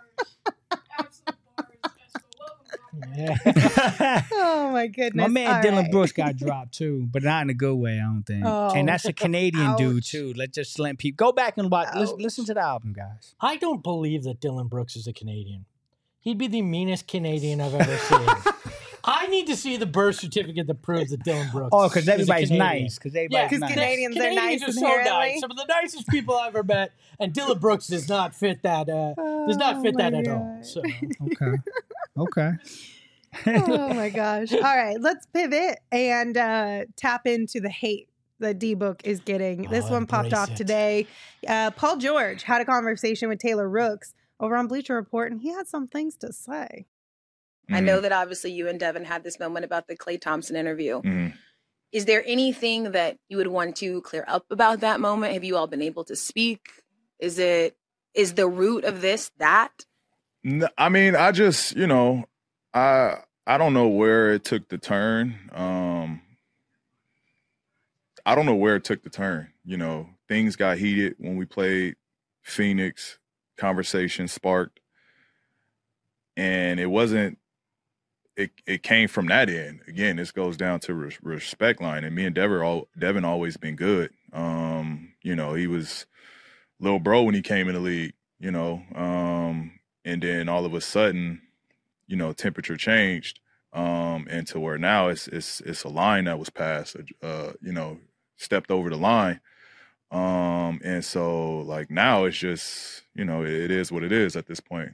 Oh my goodness. My man All Dylan right. Brooks got dropped too, but not in a good way, I don't think. Oh, and that's a Canadian dude ouch. too. Let's just let people go back and watch. Listen to the album, guys. I don't believe that Dylan Brooks is a Canadian. He'd be the meanest Canadian I've ever seen. I need to see the birth certificate that proves that Dylan Brooks. Oh, because is a everybody's Canadian. nice. Because everybody's nice. Canadians are nice are so inherently. nice. Some of the nicest people I've ever met, and Dylan Brooks does not fit that. Does not fit that at all. So Okay. Oh my gosh. All right, let's pivot and tap into the hate that D-Book is getting. This one popped off today. Paul George had a conversation with Taylor Rooks over on Bleacher Report, and he had some things to say. I know that obviously you and Devin had this moment about the Klay Thompson interview. Is there anything that you would want to clear up about that moment? Have you all been able to speak? Is the root of this that? I mean, I just, I don't know where it took the turn. I don't know where it took the turn. Things got heated when we played Phoenix. Conversation sparked, and it wasn't. It came from that end. Again, this goes down to respect line, and me and Devin always been good. He was little bro when he came in the league. And then all of a sudden, temperature changed, and to where now it's a line that was passed. Stepped over the line. And so like now it's just, it is what it is at this point.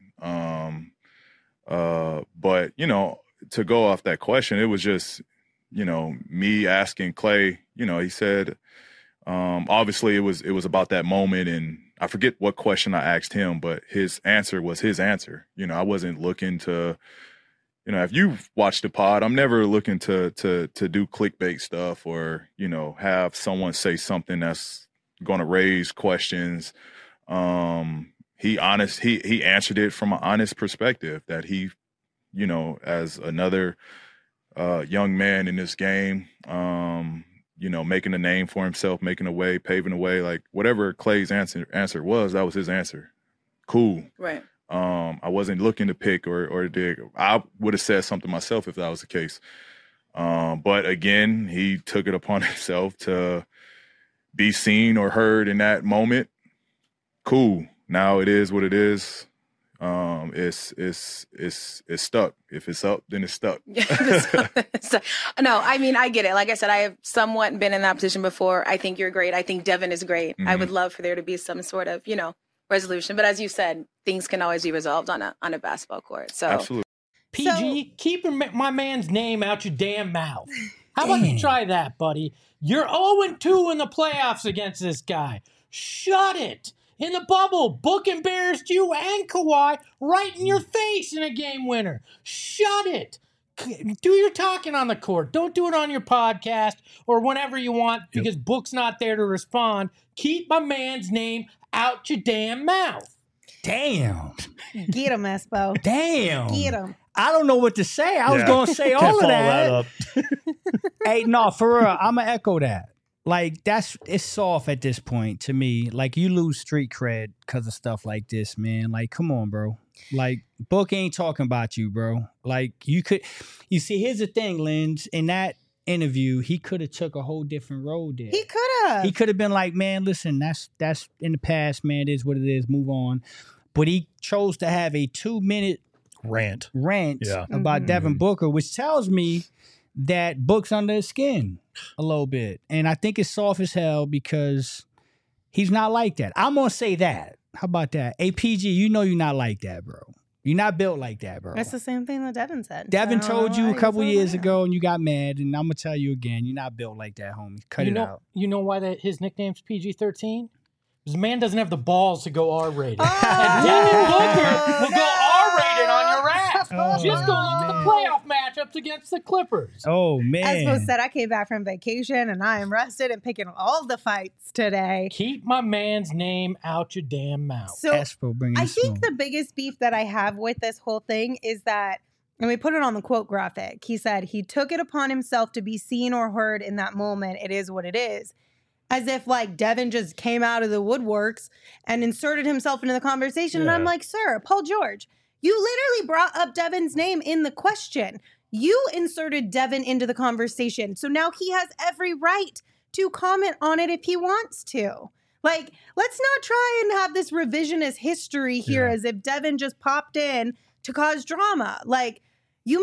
But, to go off that question, it was just, me asking Klay, he said, obviously it was about that moment, and I forget what question I asked him, but his answer was his answer. I wasn't looking to, if you've watched the pod, I'm never looking to do clickbait stuff or, have someone say something that's going to raise questions. He answered it from an honest perspective that he, as another young man in this game, making a name for himself, making a way, paving a way, like whatever Klay's answer was, that was his answer. Cool. Right. I wasn't looking to pick or dig. I would have said something myself if that was the case. But again, he took it upon himself to be seen or heard in that moment. Cool. Now it is what it is. It's stuck. If it's up, then it's stuck. No, I mean, I get it. Like I said, I have somewhat been in that position before. I think you're great. I think Devin is great. I would love for there to be some sort of, resolution. But as you said, things can always be resolved on a basketball court. So absolutely. PG, keep my man's name out your damn mouth. How about you try that, buddy? You're 0-2 in the playoffs against this guy. Shut it. In the bubble, Book embarrassed you and Kawhi right in your face in a game winner. Shut it. Do your talking on the court. Don't do it on your podcast or whenever you want because Book's not there to respond. Keep my man's name out your damn mouth. Damn. Get him, Espo. Damn. Get him. I don't know what to say. I was going to say all of that. Hey, no, for real, I'm going to echo that. Like, it's soft at this point to me. Like, you lose street cred because of stuff like this, man. Like, come on, bro. Like, Book ain't talking about you, bro. Like, you see, here's the thing, Linz, in that interview, he could have took a whole different road there. He could have. He could have been like, man, listen, that's in the past, man. It is what it is. Move on. But he chose to have a 2-minute rant about Devin Booker, which tells me that Book's under his skin a little bit. And I think it's soft as hell because he's not like that. I'm going to say that. How about that? APG, you know you're not like that, bro. You're not built like that, bro. That's the same thing that Devin said. Devin told you a couple years ago and you got mad, and I'm going to tell you again, you're not built like that, homie. Cut it out. You know why his nickname's PG-13? Because the man doesn't have the balls to go R-rated. Oh. And Devin Booker will go R-rated on your ass. Just go look at the playoff matchups against the Clippers. Oh, man. As Bo said, I came back from vacation and I am rested and picking all the fights today. Keep my man's name out your damn mouth. So I think the biggest beef that I have with this whole thing is that, and we put it on the quote graphic, he said he took it upon himself to be seen or heard in that moment. It is what it is. As if like Devin just came out of the woodworks and inserted himself into the conversation. And I'm like, sir, Paul George, you literally brought up Devin's name in the question. You inserted Devin into the conversation. So now he has every right to comment on it if he wants to. Like, let's not try and have this revisionist history here as if Devin just popped in to cause drama. Like, you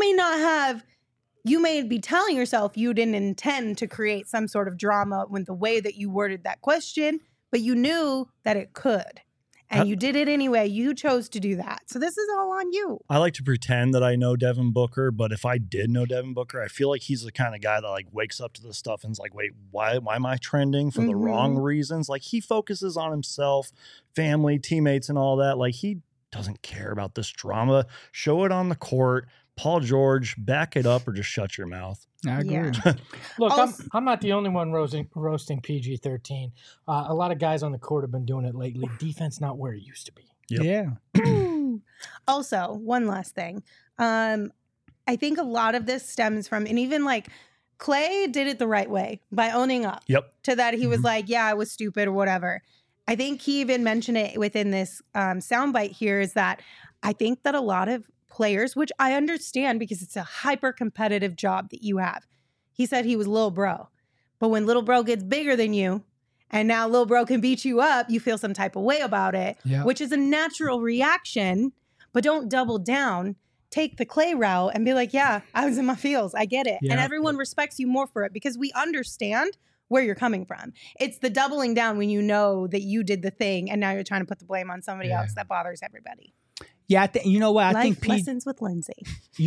may be telling yourself you didn't intend to create some sort of drama with the way that you worded that question, but you knew that it could. And you did it anyway. You chose to do that. So this is all on you. I like to pretend that I know Devin Booker, but if I did know Devin Booker, I feel like he's the kind of guy that like wakes up to this stuff and is like, wait, why am I trending for the wrong reasons? Like he focuses on himself, family, teammates, and all that. Like he doesn't care about this drama. Show it on the court. Paul George, back it up or just shut your mouth. I agree. Yeah. Look, I'm not the only one roasting PG-13. A lot of guys on the court have been doing it lately. Defense not where it used to be. Yep. Yeah. Also, one last thing. I think a lot of this stems from, and even like Clay did it the right way by owning up to that. He was like, yeah, I was stupid or whatever. I think he even mentioned it within this soundbite here is that I think that a lot of players, which I understand because it's a hyper competitive job that you have. He said he was Lil Bro. But when Lil Bro gets bigger than you and now Lil Bro can beat you up, you feel some type of way about it, which is a natural reaction, but don't double down. Take the Clay route and be like, yeah, I was in my feels. I get it. And everyone respects you more for it because we understand where you're coming from. It's the doubling down when you know that you did the thing and now you're trying to put the blame on somebody else that bothers everybody. Yeah, you know what? I Life think lessons with Lindsay.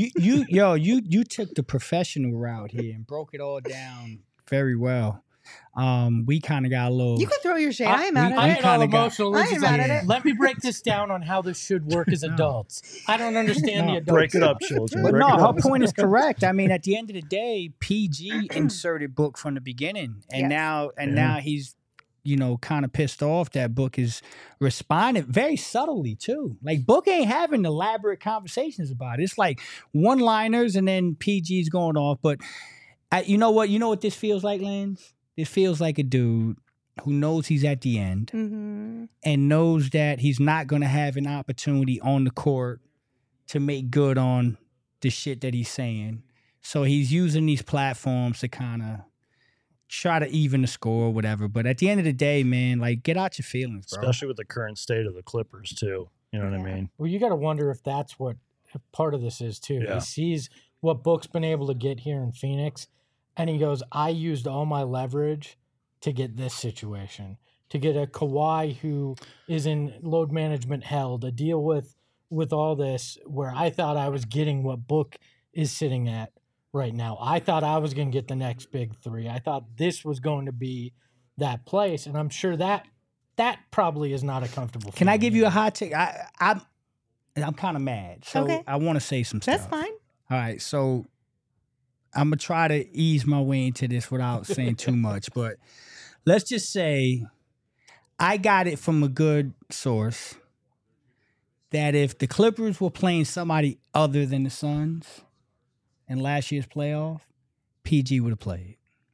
You took the professional route here and broke it all down very well. We kind of got a little. You can throw your shade. I ain't mad I at it. get all emotional. I ain't mad at it. Let me break this down on how this should work as adults. I don't understand the adults. Break it up, children. But Break no, it her up. point is correct. I mean, at the end of the day, PG inserted Book from the beginning, and now he's, kind of pissed off that Book is responding very subtly too. Like Book ain't having elaborate conversations about it. It's like one-liners, and then PG's going off. But you know what? You know what this feels like, Lance? It feels like a dude who knows he's at the end and knows that he's not going to have an opportunity on the court to make good on the shit that he's saying. So he's using these platforms to kind of try to even the score or whatever. But at the end of the day, man, like, get out your feelings, bro. Especially with the current state of the Clippers, too. You know what I mean? Well, you got to wonder if that's what part of this is, too. Yeah. He sees what Book's been able to get here in Phoenix, and he goes, I used all my leverage to get this situation, to get a Kawhi who is in load management hell, to deal with all this, where I thought I was getting what Book is sitting at right now. I thought I was going to get the next big three. I thought this was going to be that place, and I'm sure that probably is not a comfortable Can I feeling give you a hot take? I'm kind of mad, so Okay. I want to say some stuff. That's fine. All right, so I'm going to try to ease my way into this without saying too much, but let's just say I got it from a good source that if the Clippers were playing somebody other than the Suns in last year's playoff, PG would have played.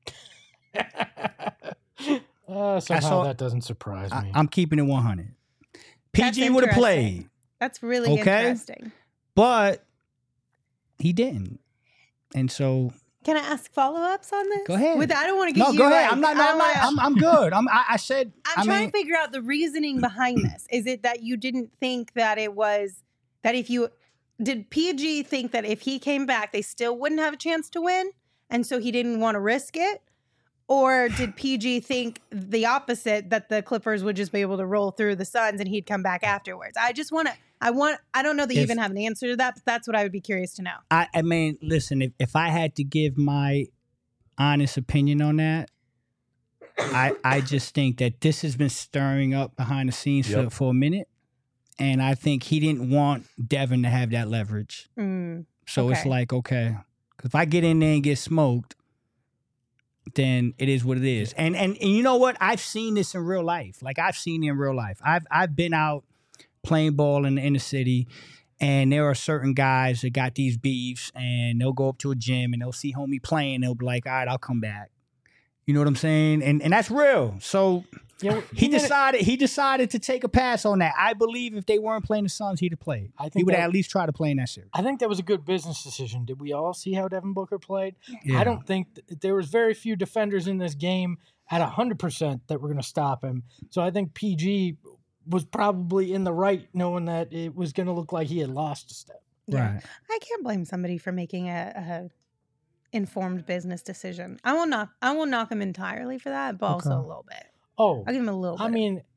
Somehow that doesn't surprise me. I'm keeping it 100. That's PG would have interesting. played, That's really interesting. but he didn't. And so Can I ask follow-ups on this? Go ahead. I don't want to get no, you. go ahead. like- I'm not. I don't wanna- I'm good. I said. I'm trying to figure out the reasoning behind this. Is it that you didn't think that it was that if you did PG think that if he came back, they still wouldn't have a chance to win, and so he didn't want to risk it? Or did PG think the opposite, that the Clippers would just be able to roll through the Suns and he'd come back afterwards? I don't know that you even have an answer to that, but that's what I would be curious to know. I mean, listen, if I had to give my honest opinion on that, I just think that this has been stirring up behind the scenes for a minute. And I think he didn't want Devin to have that leverage. So it's like, okay, 'cause if I get in there and get smoked, then it is what it is. And you know what? I've seen this in real life. Like, I've seen it in real life. I've been out playing ball in the inner city, and there are certain guys that got these beefs, and they'll go up to a gym and they'll see homie playing. They'll be like, all right, I'll come back. You know what I'm saying? And that's real. So he decided to take a pass on that. I believe if they weren't playing the Suns, he'd have played. He would at least try to play in that series. I think that was a good business decision. Did we all see how Devin Booker played? Yeah. I don't think there was very few defenders in this game at 100% that were going to stop him. So I think PG was probably in the right, knowing that it was going to look like he had lost a step. Yeah. Right. I can't blame somebody for making a informed business decision. I won't knock him entirely for that, but also a little bit. Oh, I'll give him a little bit. I mean,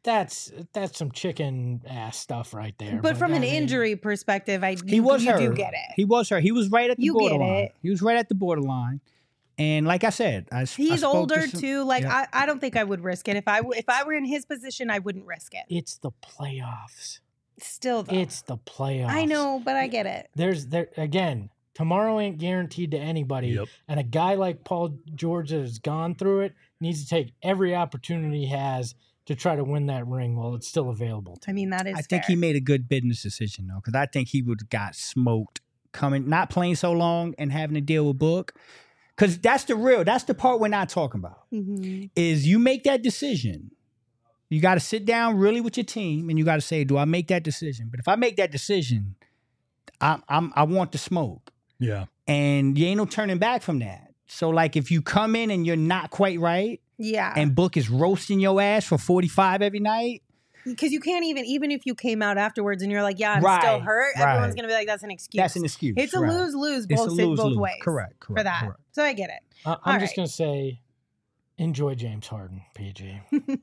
that's some chicken ass stuff right there. But from I an mean, injury perspective, He was you hurt. do get it. He was hurt. He was right at the You get borderline. it. He was right at the borderline. And like I said, He's spoke older to some- too. Like yeah. I don't think I would risk it. If I were in his position, I wouldn't risk it. it's the playoffs. Still though. It's the playoffs. I know, but I get it. There again. Tomorrow ain't guaranteed to anybody, Yep. and a guy like Paul George that has gone through it needs to take every opportunity he has to try to win that ring while it's still available. I mean, that is I think fair. he made a good business decision though, because I think he would have got smoked coming, not playing so long and having to deal with Book. Because that's the part we're not talking about. Mhm. Is you make that decision. You got to sit down really with your team and you got to say, do I make that decision? But if I make that decision, I want the smoke. Yeah. And you ain't no turning back from that. So like if you come in and you're not quite right Yeah. and Book is roasting your ass for 45 every night, Because you can't even if you came out afterwards and you're like, yeah, I'm Right, still hurt, everyone's right. going to be like, that's an excuse. that's an excuse. It's a right. lose-lose It's a both lose-lose. ways. Correct. For that. Correct. So I get it. I'm just right. gonna say, enjoy James Harden, PG.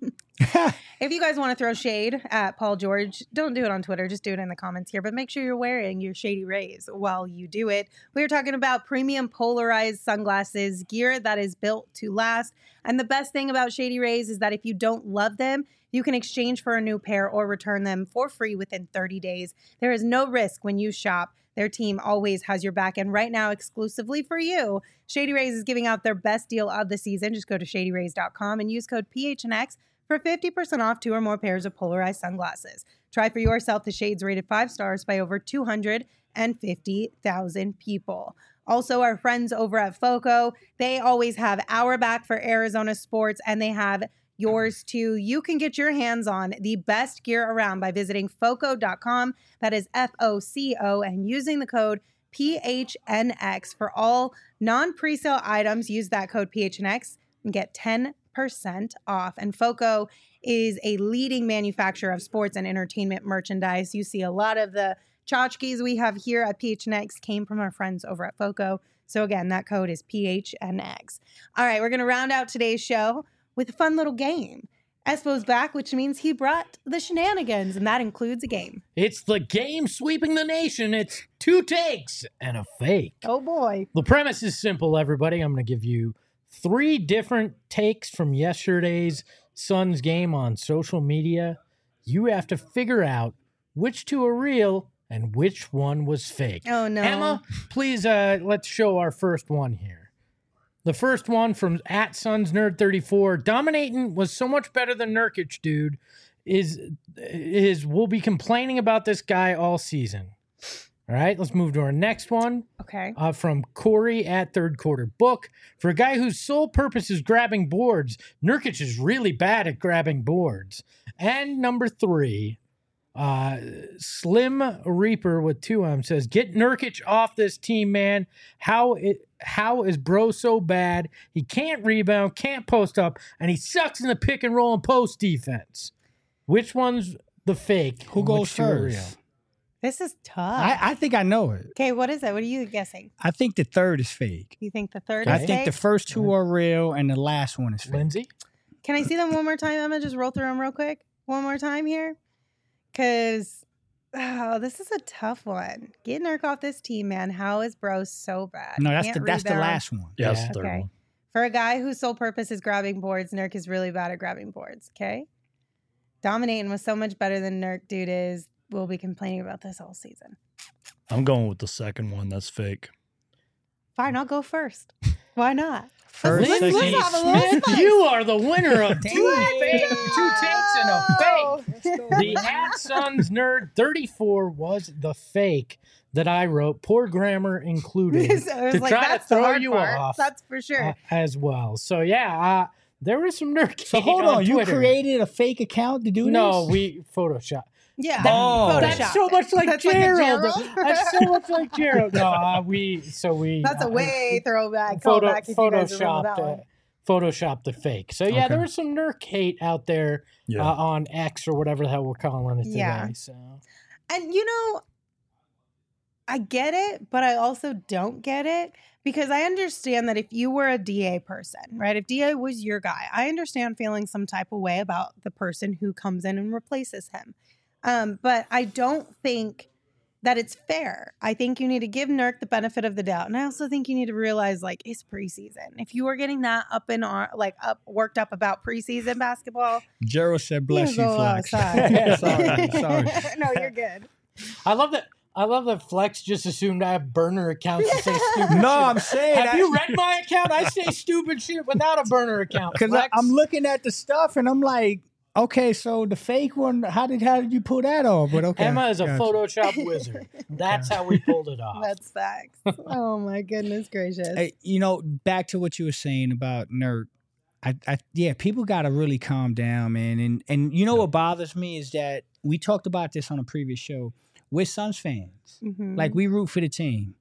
If you guys want to throw shade at Paul George, don't do it on Twitter. Just do it in the comments here. But make sure you're wearing your Shady Rays while you do it. We're talking about premium polarized sunglasses, gear that is built to last. And the best thing about Shady Rays is that if you don't love them, you can exchange for a new pair or return them for free within 30 days. There is no risk when you shop. Their team always has your back. And right now, exclusively for you, Shady Rays is giving out their best deal of the season. Just go to shadyrays.com and use code PHNX for 50% off 2 or more pairs of polarized sunglasses. Try for yourself the shades rated 5 stars by over 250,000 people. Also, our friends over at FOCO, they always have our back for Arizona sports, and they have yours too. You can get your hands on the best gear around by visiting foco.com. That is FOCO, and using the code PHNX for all non-presale items. Use that code PHNX and get 10% off. And FOCO is a leading manufacturer of sports and entertainment merchandise. You see a lot of the tchotchkes we have here at PHNX came from our friends over at FOCO. So again, that code is PHNX. All right, we're going to round out today's show with a fun little game. Espo's back, which means he brought the shenanigans, and that includes a game. It's the game sweeping the nation. It's 2 takes and a fake. Oh boy. The premise is simple, everybody. I'm going to give you 3 different takes from yesterday's Suns game on social media. You have to figure out which 2 are real and which one was fake. Oh no. Emma, please let's show our first one here. The first one from @SunsNerd34. Dominating was so much better than Nurkic, dude. We'll be complaining about this guy all season. All right, let's move to our next one. Okay. From Corey @ThirdQuarterBook. For a guy whose sole purpose is grabbing boards, Nurkic is really bad at grabbing boards. And number 3, Slim Reaper with 2 M's says, get Nurkic off this team, man. How is bro so bad? He can't rebound, can't post up, and he sucks in the pick and roll and post defense. Which one's the fake? Who and goes which 2 are first? real? This is tough. I think I know it. Okay, what is it? What are you guessing? I think the third is fake. You think the third I is think the fake? first 2 are real and the last one is fake. Lindsay? Can I see them one more time, Emma? Just roll through them real quick. One more time here. Because, this is a tough one. Get Nurk off this team, man. How is bro so bad? No, Can't that's the rebound. last one. Yeah, that's Yeah. the third Okay. one. For a guy whose sole purpose is grabbing boards, Nurk is really bad at grabbing boards, okay? Dominating was so much better than Nurk, dude, is. We'll be complaining about this all season. I'm going with the second one. That's fake. Fine, I'll go first. Why not? First, Let's second, have a little Smith, spice. you are the winner of 2 Dang. fake, 2 takes and a fake. Let's go. The @SunsNerd34 was the fake that I wrote, poor grammar included, So it was to like, try to that's the throw hard you part. off That's for sure. as well. So yeah, there was some nerd. So hold on, you Twitter. created a fake account to do this? No, we Photoshop. Yeah. Oh. That's Photoshop so it. much like That's like a Gerald. Gerald? That's so much like Gerald. No, we. That's a way throwback. Photo, Callback if you guys remember that one. photoshopped the fake. So yeah, Okay. there was some Nurk hate out there Yeah. on X or whatever the hell we're calling it today. Yeah. So And I get it, but I also don't get it Because I understand that if you were a DA person, right? If DA was your guy, I understand feeling some type of way about the person who comes in and replaces him. But I don't think that it's fair. I think you need to give Nurk the benefit of the doubt. And I also think you need to realize, like, it's preseason. If you are getting that worked up about preseason basketball. Gerald said, bless you, Flex. sorry. No, you're good. I love that Flex just assumed I have burner accounts to say stupid No, shit. I'm saying. Have you read my account? I say stupid shit without a burner account. Because I'm looking at the stuff and I'm like, okay, so the fake one, how did you pull that off? But okay. Emma is a Photoshop wizard. That's how we pulled it off. That's facts. Oh my goodness gracious. Hey, back to what you were saying about Nurk. Yeah, people got to really calm down, man. And what bothers me is that we talked about this on a previous show. We're Suns fans. Mm-hmm. Like, we root for the team.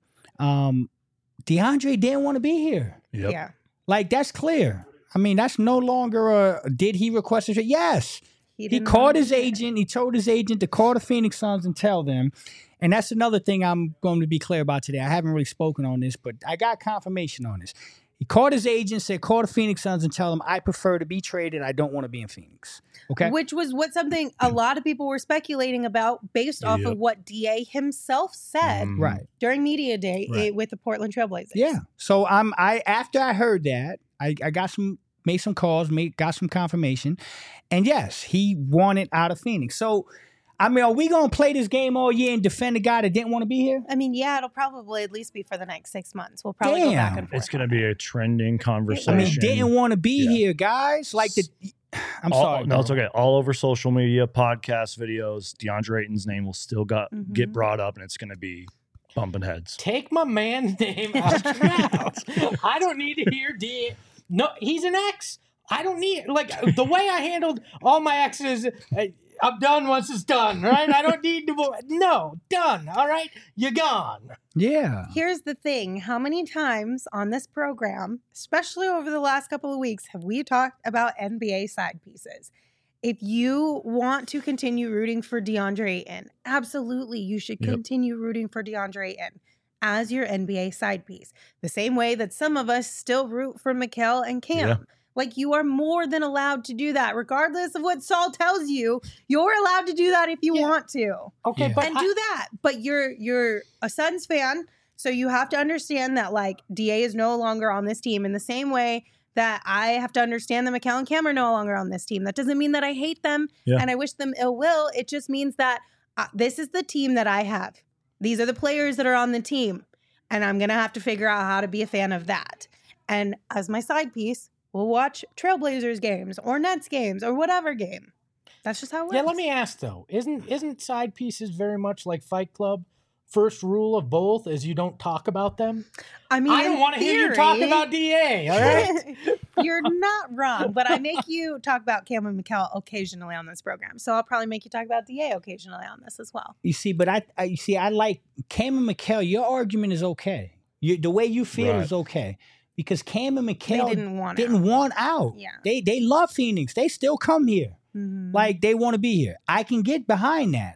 DeAndre didn't want to be here. Yep. Yeah. Like, that's clear. I mean, that's no longer did he request a trade? Yes. He called his agent. He told his agent to call the Phoenix Suns and tell them. And that's another thing I'm going to be clear about today. I haven't really spoken on this, but I got confirmation on this. He called his agent, said, call the Phoenix Suns and tell them I prefer to be traded. I don't want to be in Phoenix. Okay. Which was something a lot of people were speculating about based off of what DA himself said right during media day with the Portland Trailblazers. Yeah. So after I heard that, I made some calls, got some confirmation. And yes, he wanted out of Phoenix. So, I mean, are we going to play this game all year and defend a guy that didn't want to be here? I mean, yeah, it'll probably at least be for the next 6 months. We'll probably go back and forth. It's going to be a trending conversation. I mean, didn't want to be here, guys. Like I'm sorry. No, it's okay. All over social media, podcasts, videos, DeAndre Ayton's name will still get brought up, and it's going to be bumping heads. Take my man's name out your mouth. I don't need to hear DA. No, he's an ex. I don't need, the way I handled all my exes, I'm done once it's done, right? I don't need to, no, done, all right? You're gone. Yeah. Here's the thing. How many times on this program, especially over the last couple of weeks, have we talked about NBA side pieces? If you want to continue rooting for DeAndre Ayton, absolutely, you should continue rooting for DeAndre Ayton as your NBA side piece. The same way that some of us still root for Mikal and Cam. Yeah. Like, you are more than allowed to do that. Regardless of what Saul tells you, you're allowed to do that if you want to. Okay, but do that. But you're a Suns fan, so you have to understand that, like, DA is no longer on this team in the same way that I have to understand that Mikal and Cam are no longer on this team. That doesn't mean that I hate them and I wish them ill will. It just means that this is the team that I have. These are the players that are on the team, and I'm going to have to figure out how to be a fan of that. And as my side piece, we'll watch Trailblazers games or Nets games or whatever game. That's just how it works. Yeah, let me ask, though. Isn't side pieces very much like Fight Club? First rule of both is you don't talk about them. I mean, I don't want to hear you talk about DA, all right? You're not wrong, but I make you talk about Cam and Mikal occasionally on this program. So I'll probably make you talk about DA occasionally on this as well. You see, but I like Cam and Mikal. Your argument is okay. The way you feel is okay. Because Cam and Mikal didn't want out. Yeah. They love Phoenix. They still come here. Mm-hmm. Like, they want to be here. I can get behind that.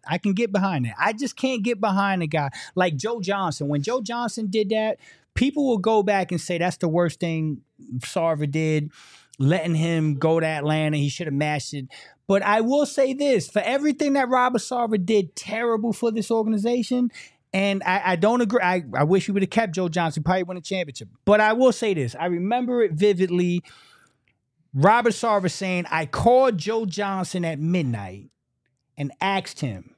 I just can't get behind a guy like Joe Johnson. When Joe Johnson did that, people will go back and say that's the worst thing Sarver did, letting him go to Atlanta. He should have matched it. But I will say this, for everything that Robert Sarver did terrible for this organization, and I don't agree. I wish he would have kept Joe Johnson, probably win a championship. But I will say this. I remember it vividly. Robert Sarver saying, I called Joe Johnson at midnight and asked him,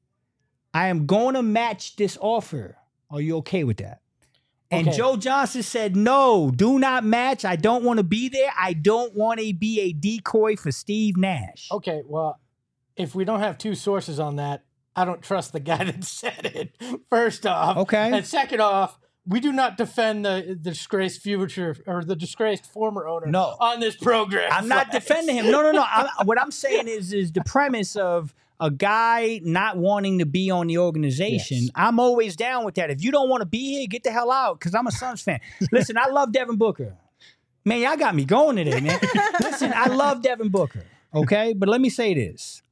I am going to match this offer. Are you okay with that? And Joe Johnson said, no, do not match. I don't want to be there. I don't want to be a decoy for Steve Nash. Okay, well, if we don't have two sources on that, I don't trust the guy that said it, first off. Okay. And second off, we do not defend the disgraced future or the disgraced former owner on this program. I'm not defending him. No. What I'm saying is the premise of a guy not wanting to be on the organization. Yes. I'm always down with that. If you don't want to be here, get the hell out, because I'm a Suns fan. Listen, I love Devin Booker. Man, y'all got me going today, man. Listen, I love Devin Booker, okay? But let me say this.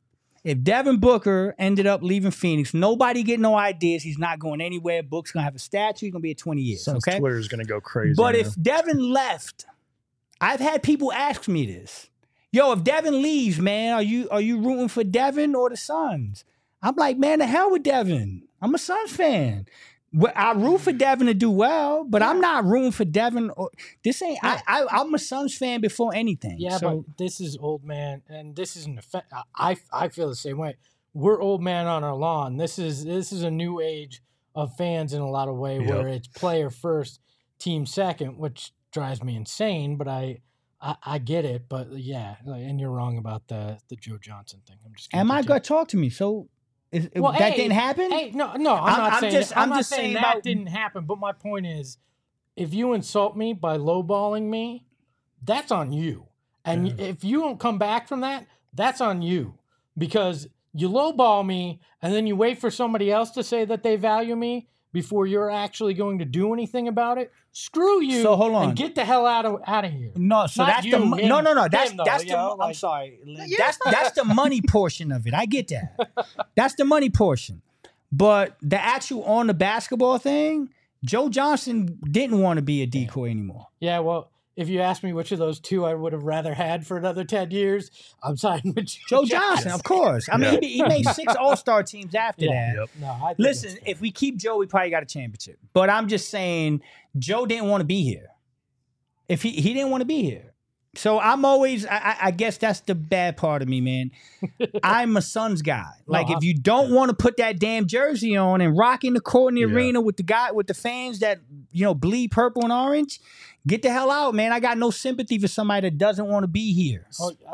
If Devin Booker ended up leaving Phoenix, nobody get no ideas. He's not going anywhere. Book's going to have a statue. He's going to be at 20 years. Since Okay? Twitter's going to go crazy. But now. if Devin left, I've had people ask me this. Yo, if Devin leaves, man, are you rooting for Devin or the Suns? I'm like, man, the hell with Devin. I'm a Suns fan. I root for Devin to do well, but I'm not rooting for Devin. This ain't. I'm a Suns fan before anything. Yeah, so, but this is old man, and this isn't I feel the same way. We're old man on our lawn. This is a new age of fans in a lot of ways, where it's player first, team second, which drives me insane. But I get it. But yeah, and you're wrong about the Joe Johnson thing. I'm just. Am I gonna talk to me? So. That didn't happen? Hey, no, I'm not saying that didn't happen. But my point is, if you insult me by lowballing me, that's on you. And if you don't come back from that, that's on you. Because you lowball me, and then you wait for somebody else to say that they value me before you're actually going to do anything about it. Screw you. So hold on. And get the hell out of here. No, so Not that's you, the him, no. That's him, though, that's you the. know, I'm like- sorry. That's the money portion of it. I get that. That's the money portion. But the actual on the basketball thing, Joe Johnson didn't want to be a decoy anymore. Yeah, well, if you ask me which of those two I would have rather had for another 10 years, I'm siding with Joe Johnson, of course. I mean, he made 6 All-Star teams after that. Yep. No, I think Listen, it's- if we keep Joe, we probably got a championship. But I'm just saying, Joe didn't want to be here. If he didn't want to be here. So I'm always, I guess that's the bad part of me, man. I'm a Suns guy. Like, if you don't want to put that damn jersey on and rock in the court in the arena with the fans that, bleed purple and orange, get the hell out, man. I got no sympathy for somebody that doesn't want to be here.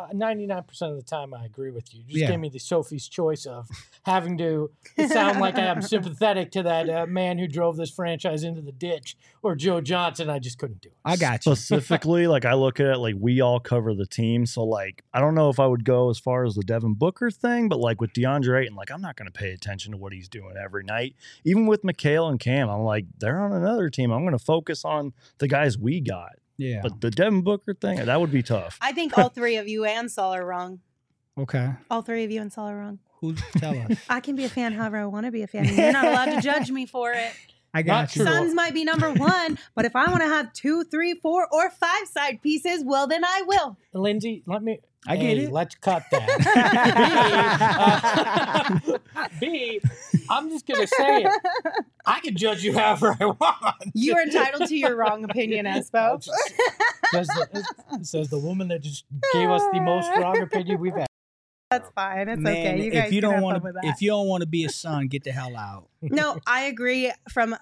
99% of the time, I agree with you. Just Yeah. give me the Sophie's choice of having to sound like I'm sympathetic to that man who drove this franchise into the ditch, or Joe Johnson. I just couldn't do it. I got you. Specifically, like I look at it like we all cover the team. So like I don't know if I would go as far as the Devin Booker thing, but like with DeAndre Ayton, like I'm not going to pay attention to what he's doing every night. Even with Mikal and Cam, I'm like, they're on another team. I'm going to focus on the guys we got. Yeah. But the Devin Booker thing, that would be tough. I think all three of you and Saul are wrong. Okay. All three of you and Saul are wrong. Who tell us? I can be a fan however I want to be a fan. You're not allowed to judge me for it. I got you. Suns might be number 1, but if I want to have 2, 3, 4, or 5 side pieces, well, then I will. Lindsay, let me. I get it. Let's cut that. B, I'm just going to say it. I can judge you however I want. You are entitled to your wrong opinion, Espo. Says the woman that just gave us the most wrong opinion we've had. That's fine. It's Man, okay. You guys if you can don't have want fun with to, that. if you don't want to be a Sun, get the hell out. No, I agree. From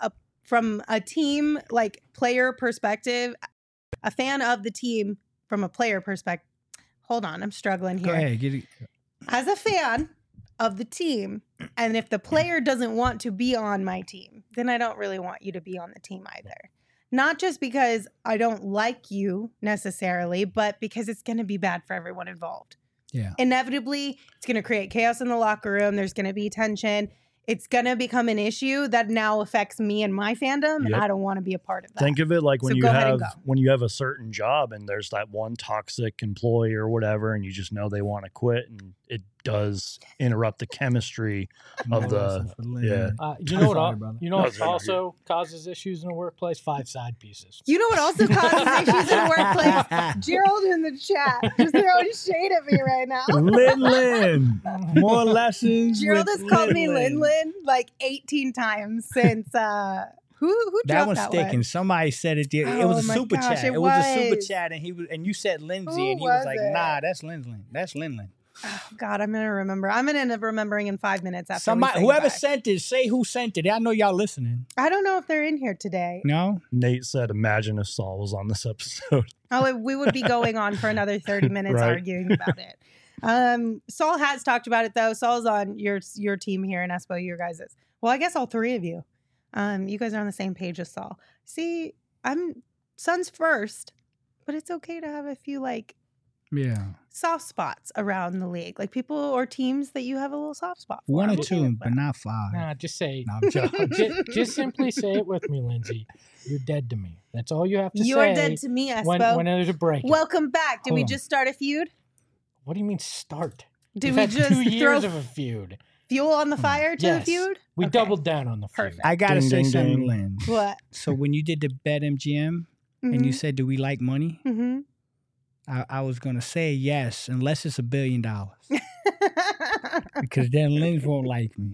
a team like player perspective, a fan of the team from a player perspective. Hold on, I'm struggling here. Go ahead, get it. As a fan of the team, and if the player doesn't want to be on my team, then I don't really want you to be on the team either. Not just because I don't like you necessarily, but because it's going to be bad for everyone involved. Yeah. Inevitably, it's going to create chaos in the locker room. There's going to be tension. It's going to become an issue that now affects me and my fandom, and Yep. I don't want to be a part of that. Think of it like when So you go ahead and have go. when you have a certain job and there's that one toxic employee or whatever, and you just know they want to quit, and it does interrupt the chemistry of the You know what? Sorry, brother. You know No, what it's not also causes issues in a workplace? 5 side pieces. You know what also causes issues in the workplace? Gerald in the chat just throwing shade at me right now. Lin. More lessons. Gerald with has called me Lin. Lin like 18 times since who That dropped one's that sticking. one? Somebody said it. It was Oh a my super gosh, chat. it It was a super was. chat, and you said Lindsay, Who and he was was like, it? "Nah, that's Lin. That's Lin." Oh, God, I'm gonna remember. I'm gonna end up remembering in 5 minutes after Somebody, we say whoever goodbye. sent it, say who sent it. I know y'all listening. I don't know if they're in here today. No, Nate said, "Imagine if Saul was on this episode." Oh, we would be going on for another 30 minutes Right. arguing about it. Saul has talked about it though. Saul's on your team here in Espo, your guys's. Well, I guess all three of you. You guys are on the same page as Saul. See, I'm Suns first, but it's okay to have a few like yeah, soft spots around the league, like people or teams that you have a little soft spot for. 1 or I'm okay 2, with but that. not 5. Nah, just say. No, I'm joking. Just simply say it with me, Lindsay. You're dead to me. That's all you have to You say. are dead to me, Espo. when there's a break. Welcome back. Did we Hold on. just start a feud? What do you mean start? Do We've we had just 2 throw years of a feud. fuel on the fire to the Yes. feud? We Okay. doubled down on the feud. Perfect. I gotta Ding, say ding, something, ding. Lynn. What? So when you did the BetMGM and you said, "Do we like money?" Mm-hmm. I was gonna say yes, unless it's $1 billion, because then Lynn won't like me.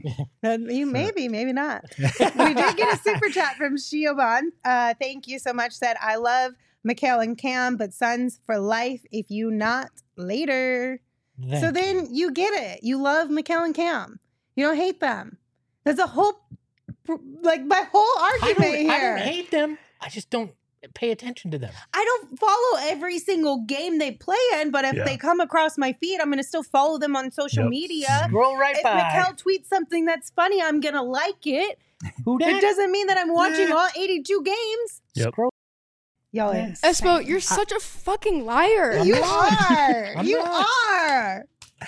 Maybe not. We did get a super chat from Shioban. Thank you so much. Said, I love Mikhail and Cam, but Suns for life if you not later. So then you get it. You love Mikhail and Cam. You don't hate them. There's a whole, like, my whole argument here. I don't hate them. I just don't pay attention to them. I don't follow every single game they play in, but if they come across my feed, I'm going to still follow them on social media. Scroll right if by. Mikhail tweets something that's funny, I'm going to like it. Who dat? It doesn't mean that I'm watching all 82 games. Yep. Scroll. Y'all are Espo, insane. you're such a fucking liar. You are. I'm You not. are.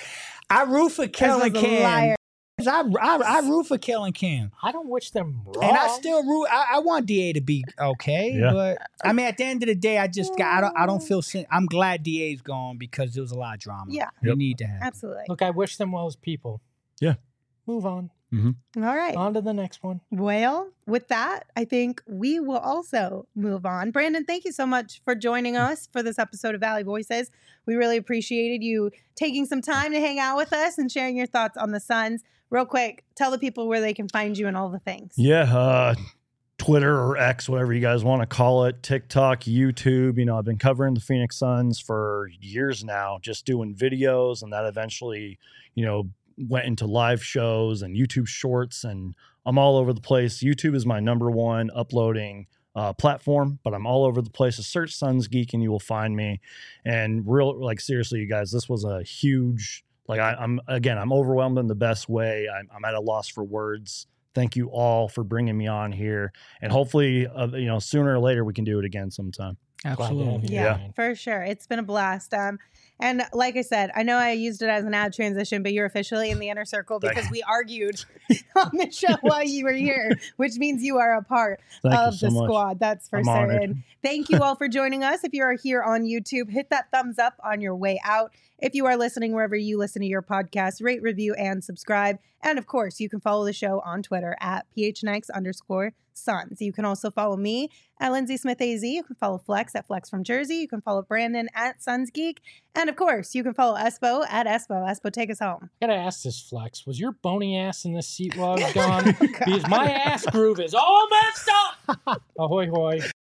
I root for Kellen Espo's a Cam. liar. I root for Kellen Cam. I don't wish them wrong. And I still root. I want Da to be okay, Yeah. but I mean, at the end of the day, I just got. I don't feel. I'm glad Da's gone because there was a lot of drama. Yeah. You Yep. need to have. Absolutely. Look, I wish them well as people. Yeah. Move on. All right. On to the next one. Well, with that, I think we will also move on. Brandon, thank you so much for joining us for this episode of Valley Voices. We really appreciated you taking some time to hang out with us and sharing your thoughts on the Suns. Real quick, tell the people where they can find you and all the things. Yeah, Twitter or X, whatever you guys want to call it, TikTok, YouTube. You know, I've been covering the Phoenix Suns for years now, just doing videos, and that eventually, you know, went into live shows and YouTube shorts, and I'm all over the place. YouTube is my number one uploading platform, but I'm all over the place. Just search Suns Geek and you will find me. And seriously, you guys, this was a huge, I'm overwhelmed in the best way. I'm at a loss for words. Thank you all for bringing me on here, and hopefully, sooner or later we can do it again sometime. Absolutely. Yeah, for sure. It's been a blast. And like I said, I know I used it as an ad transition, but you're officially in the inner circle because we argued on the show while you were here, which means you are a part of the squad. That's for certain. Thank you all for joining us. If you are here on YouTube, hit that thumbs up on your way out. If you are listening wherever you listen to your podcast, rate, review, and subscribe. And of course, you can follow the show on Twitter at PHNX_Suns. You can also follow me at Lindsay Smith AZ. You can follow Flex at Flex from Jersey. You can follow Brandon at Suns Geek. And of course, you can follow Espo at Espo. Espo, take us home. I gotta ask this, Flex. Was your bony ass in this seat while I was gone? Because my ass groove is all messed up. Ahoy, hoy.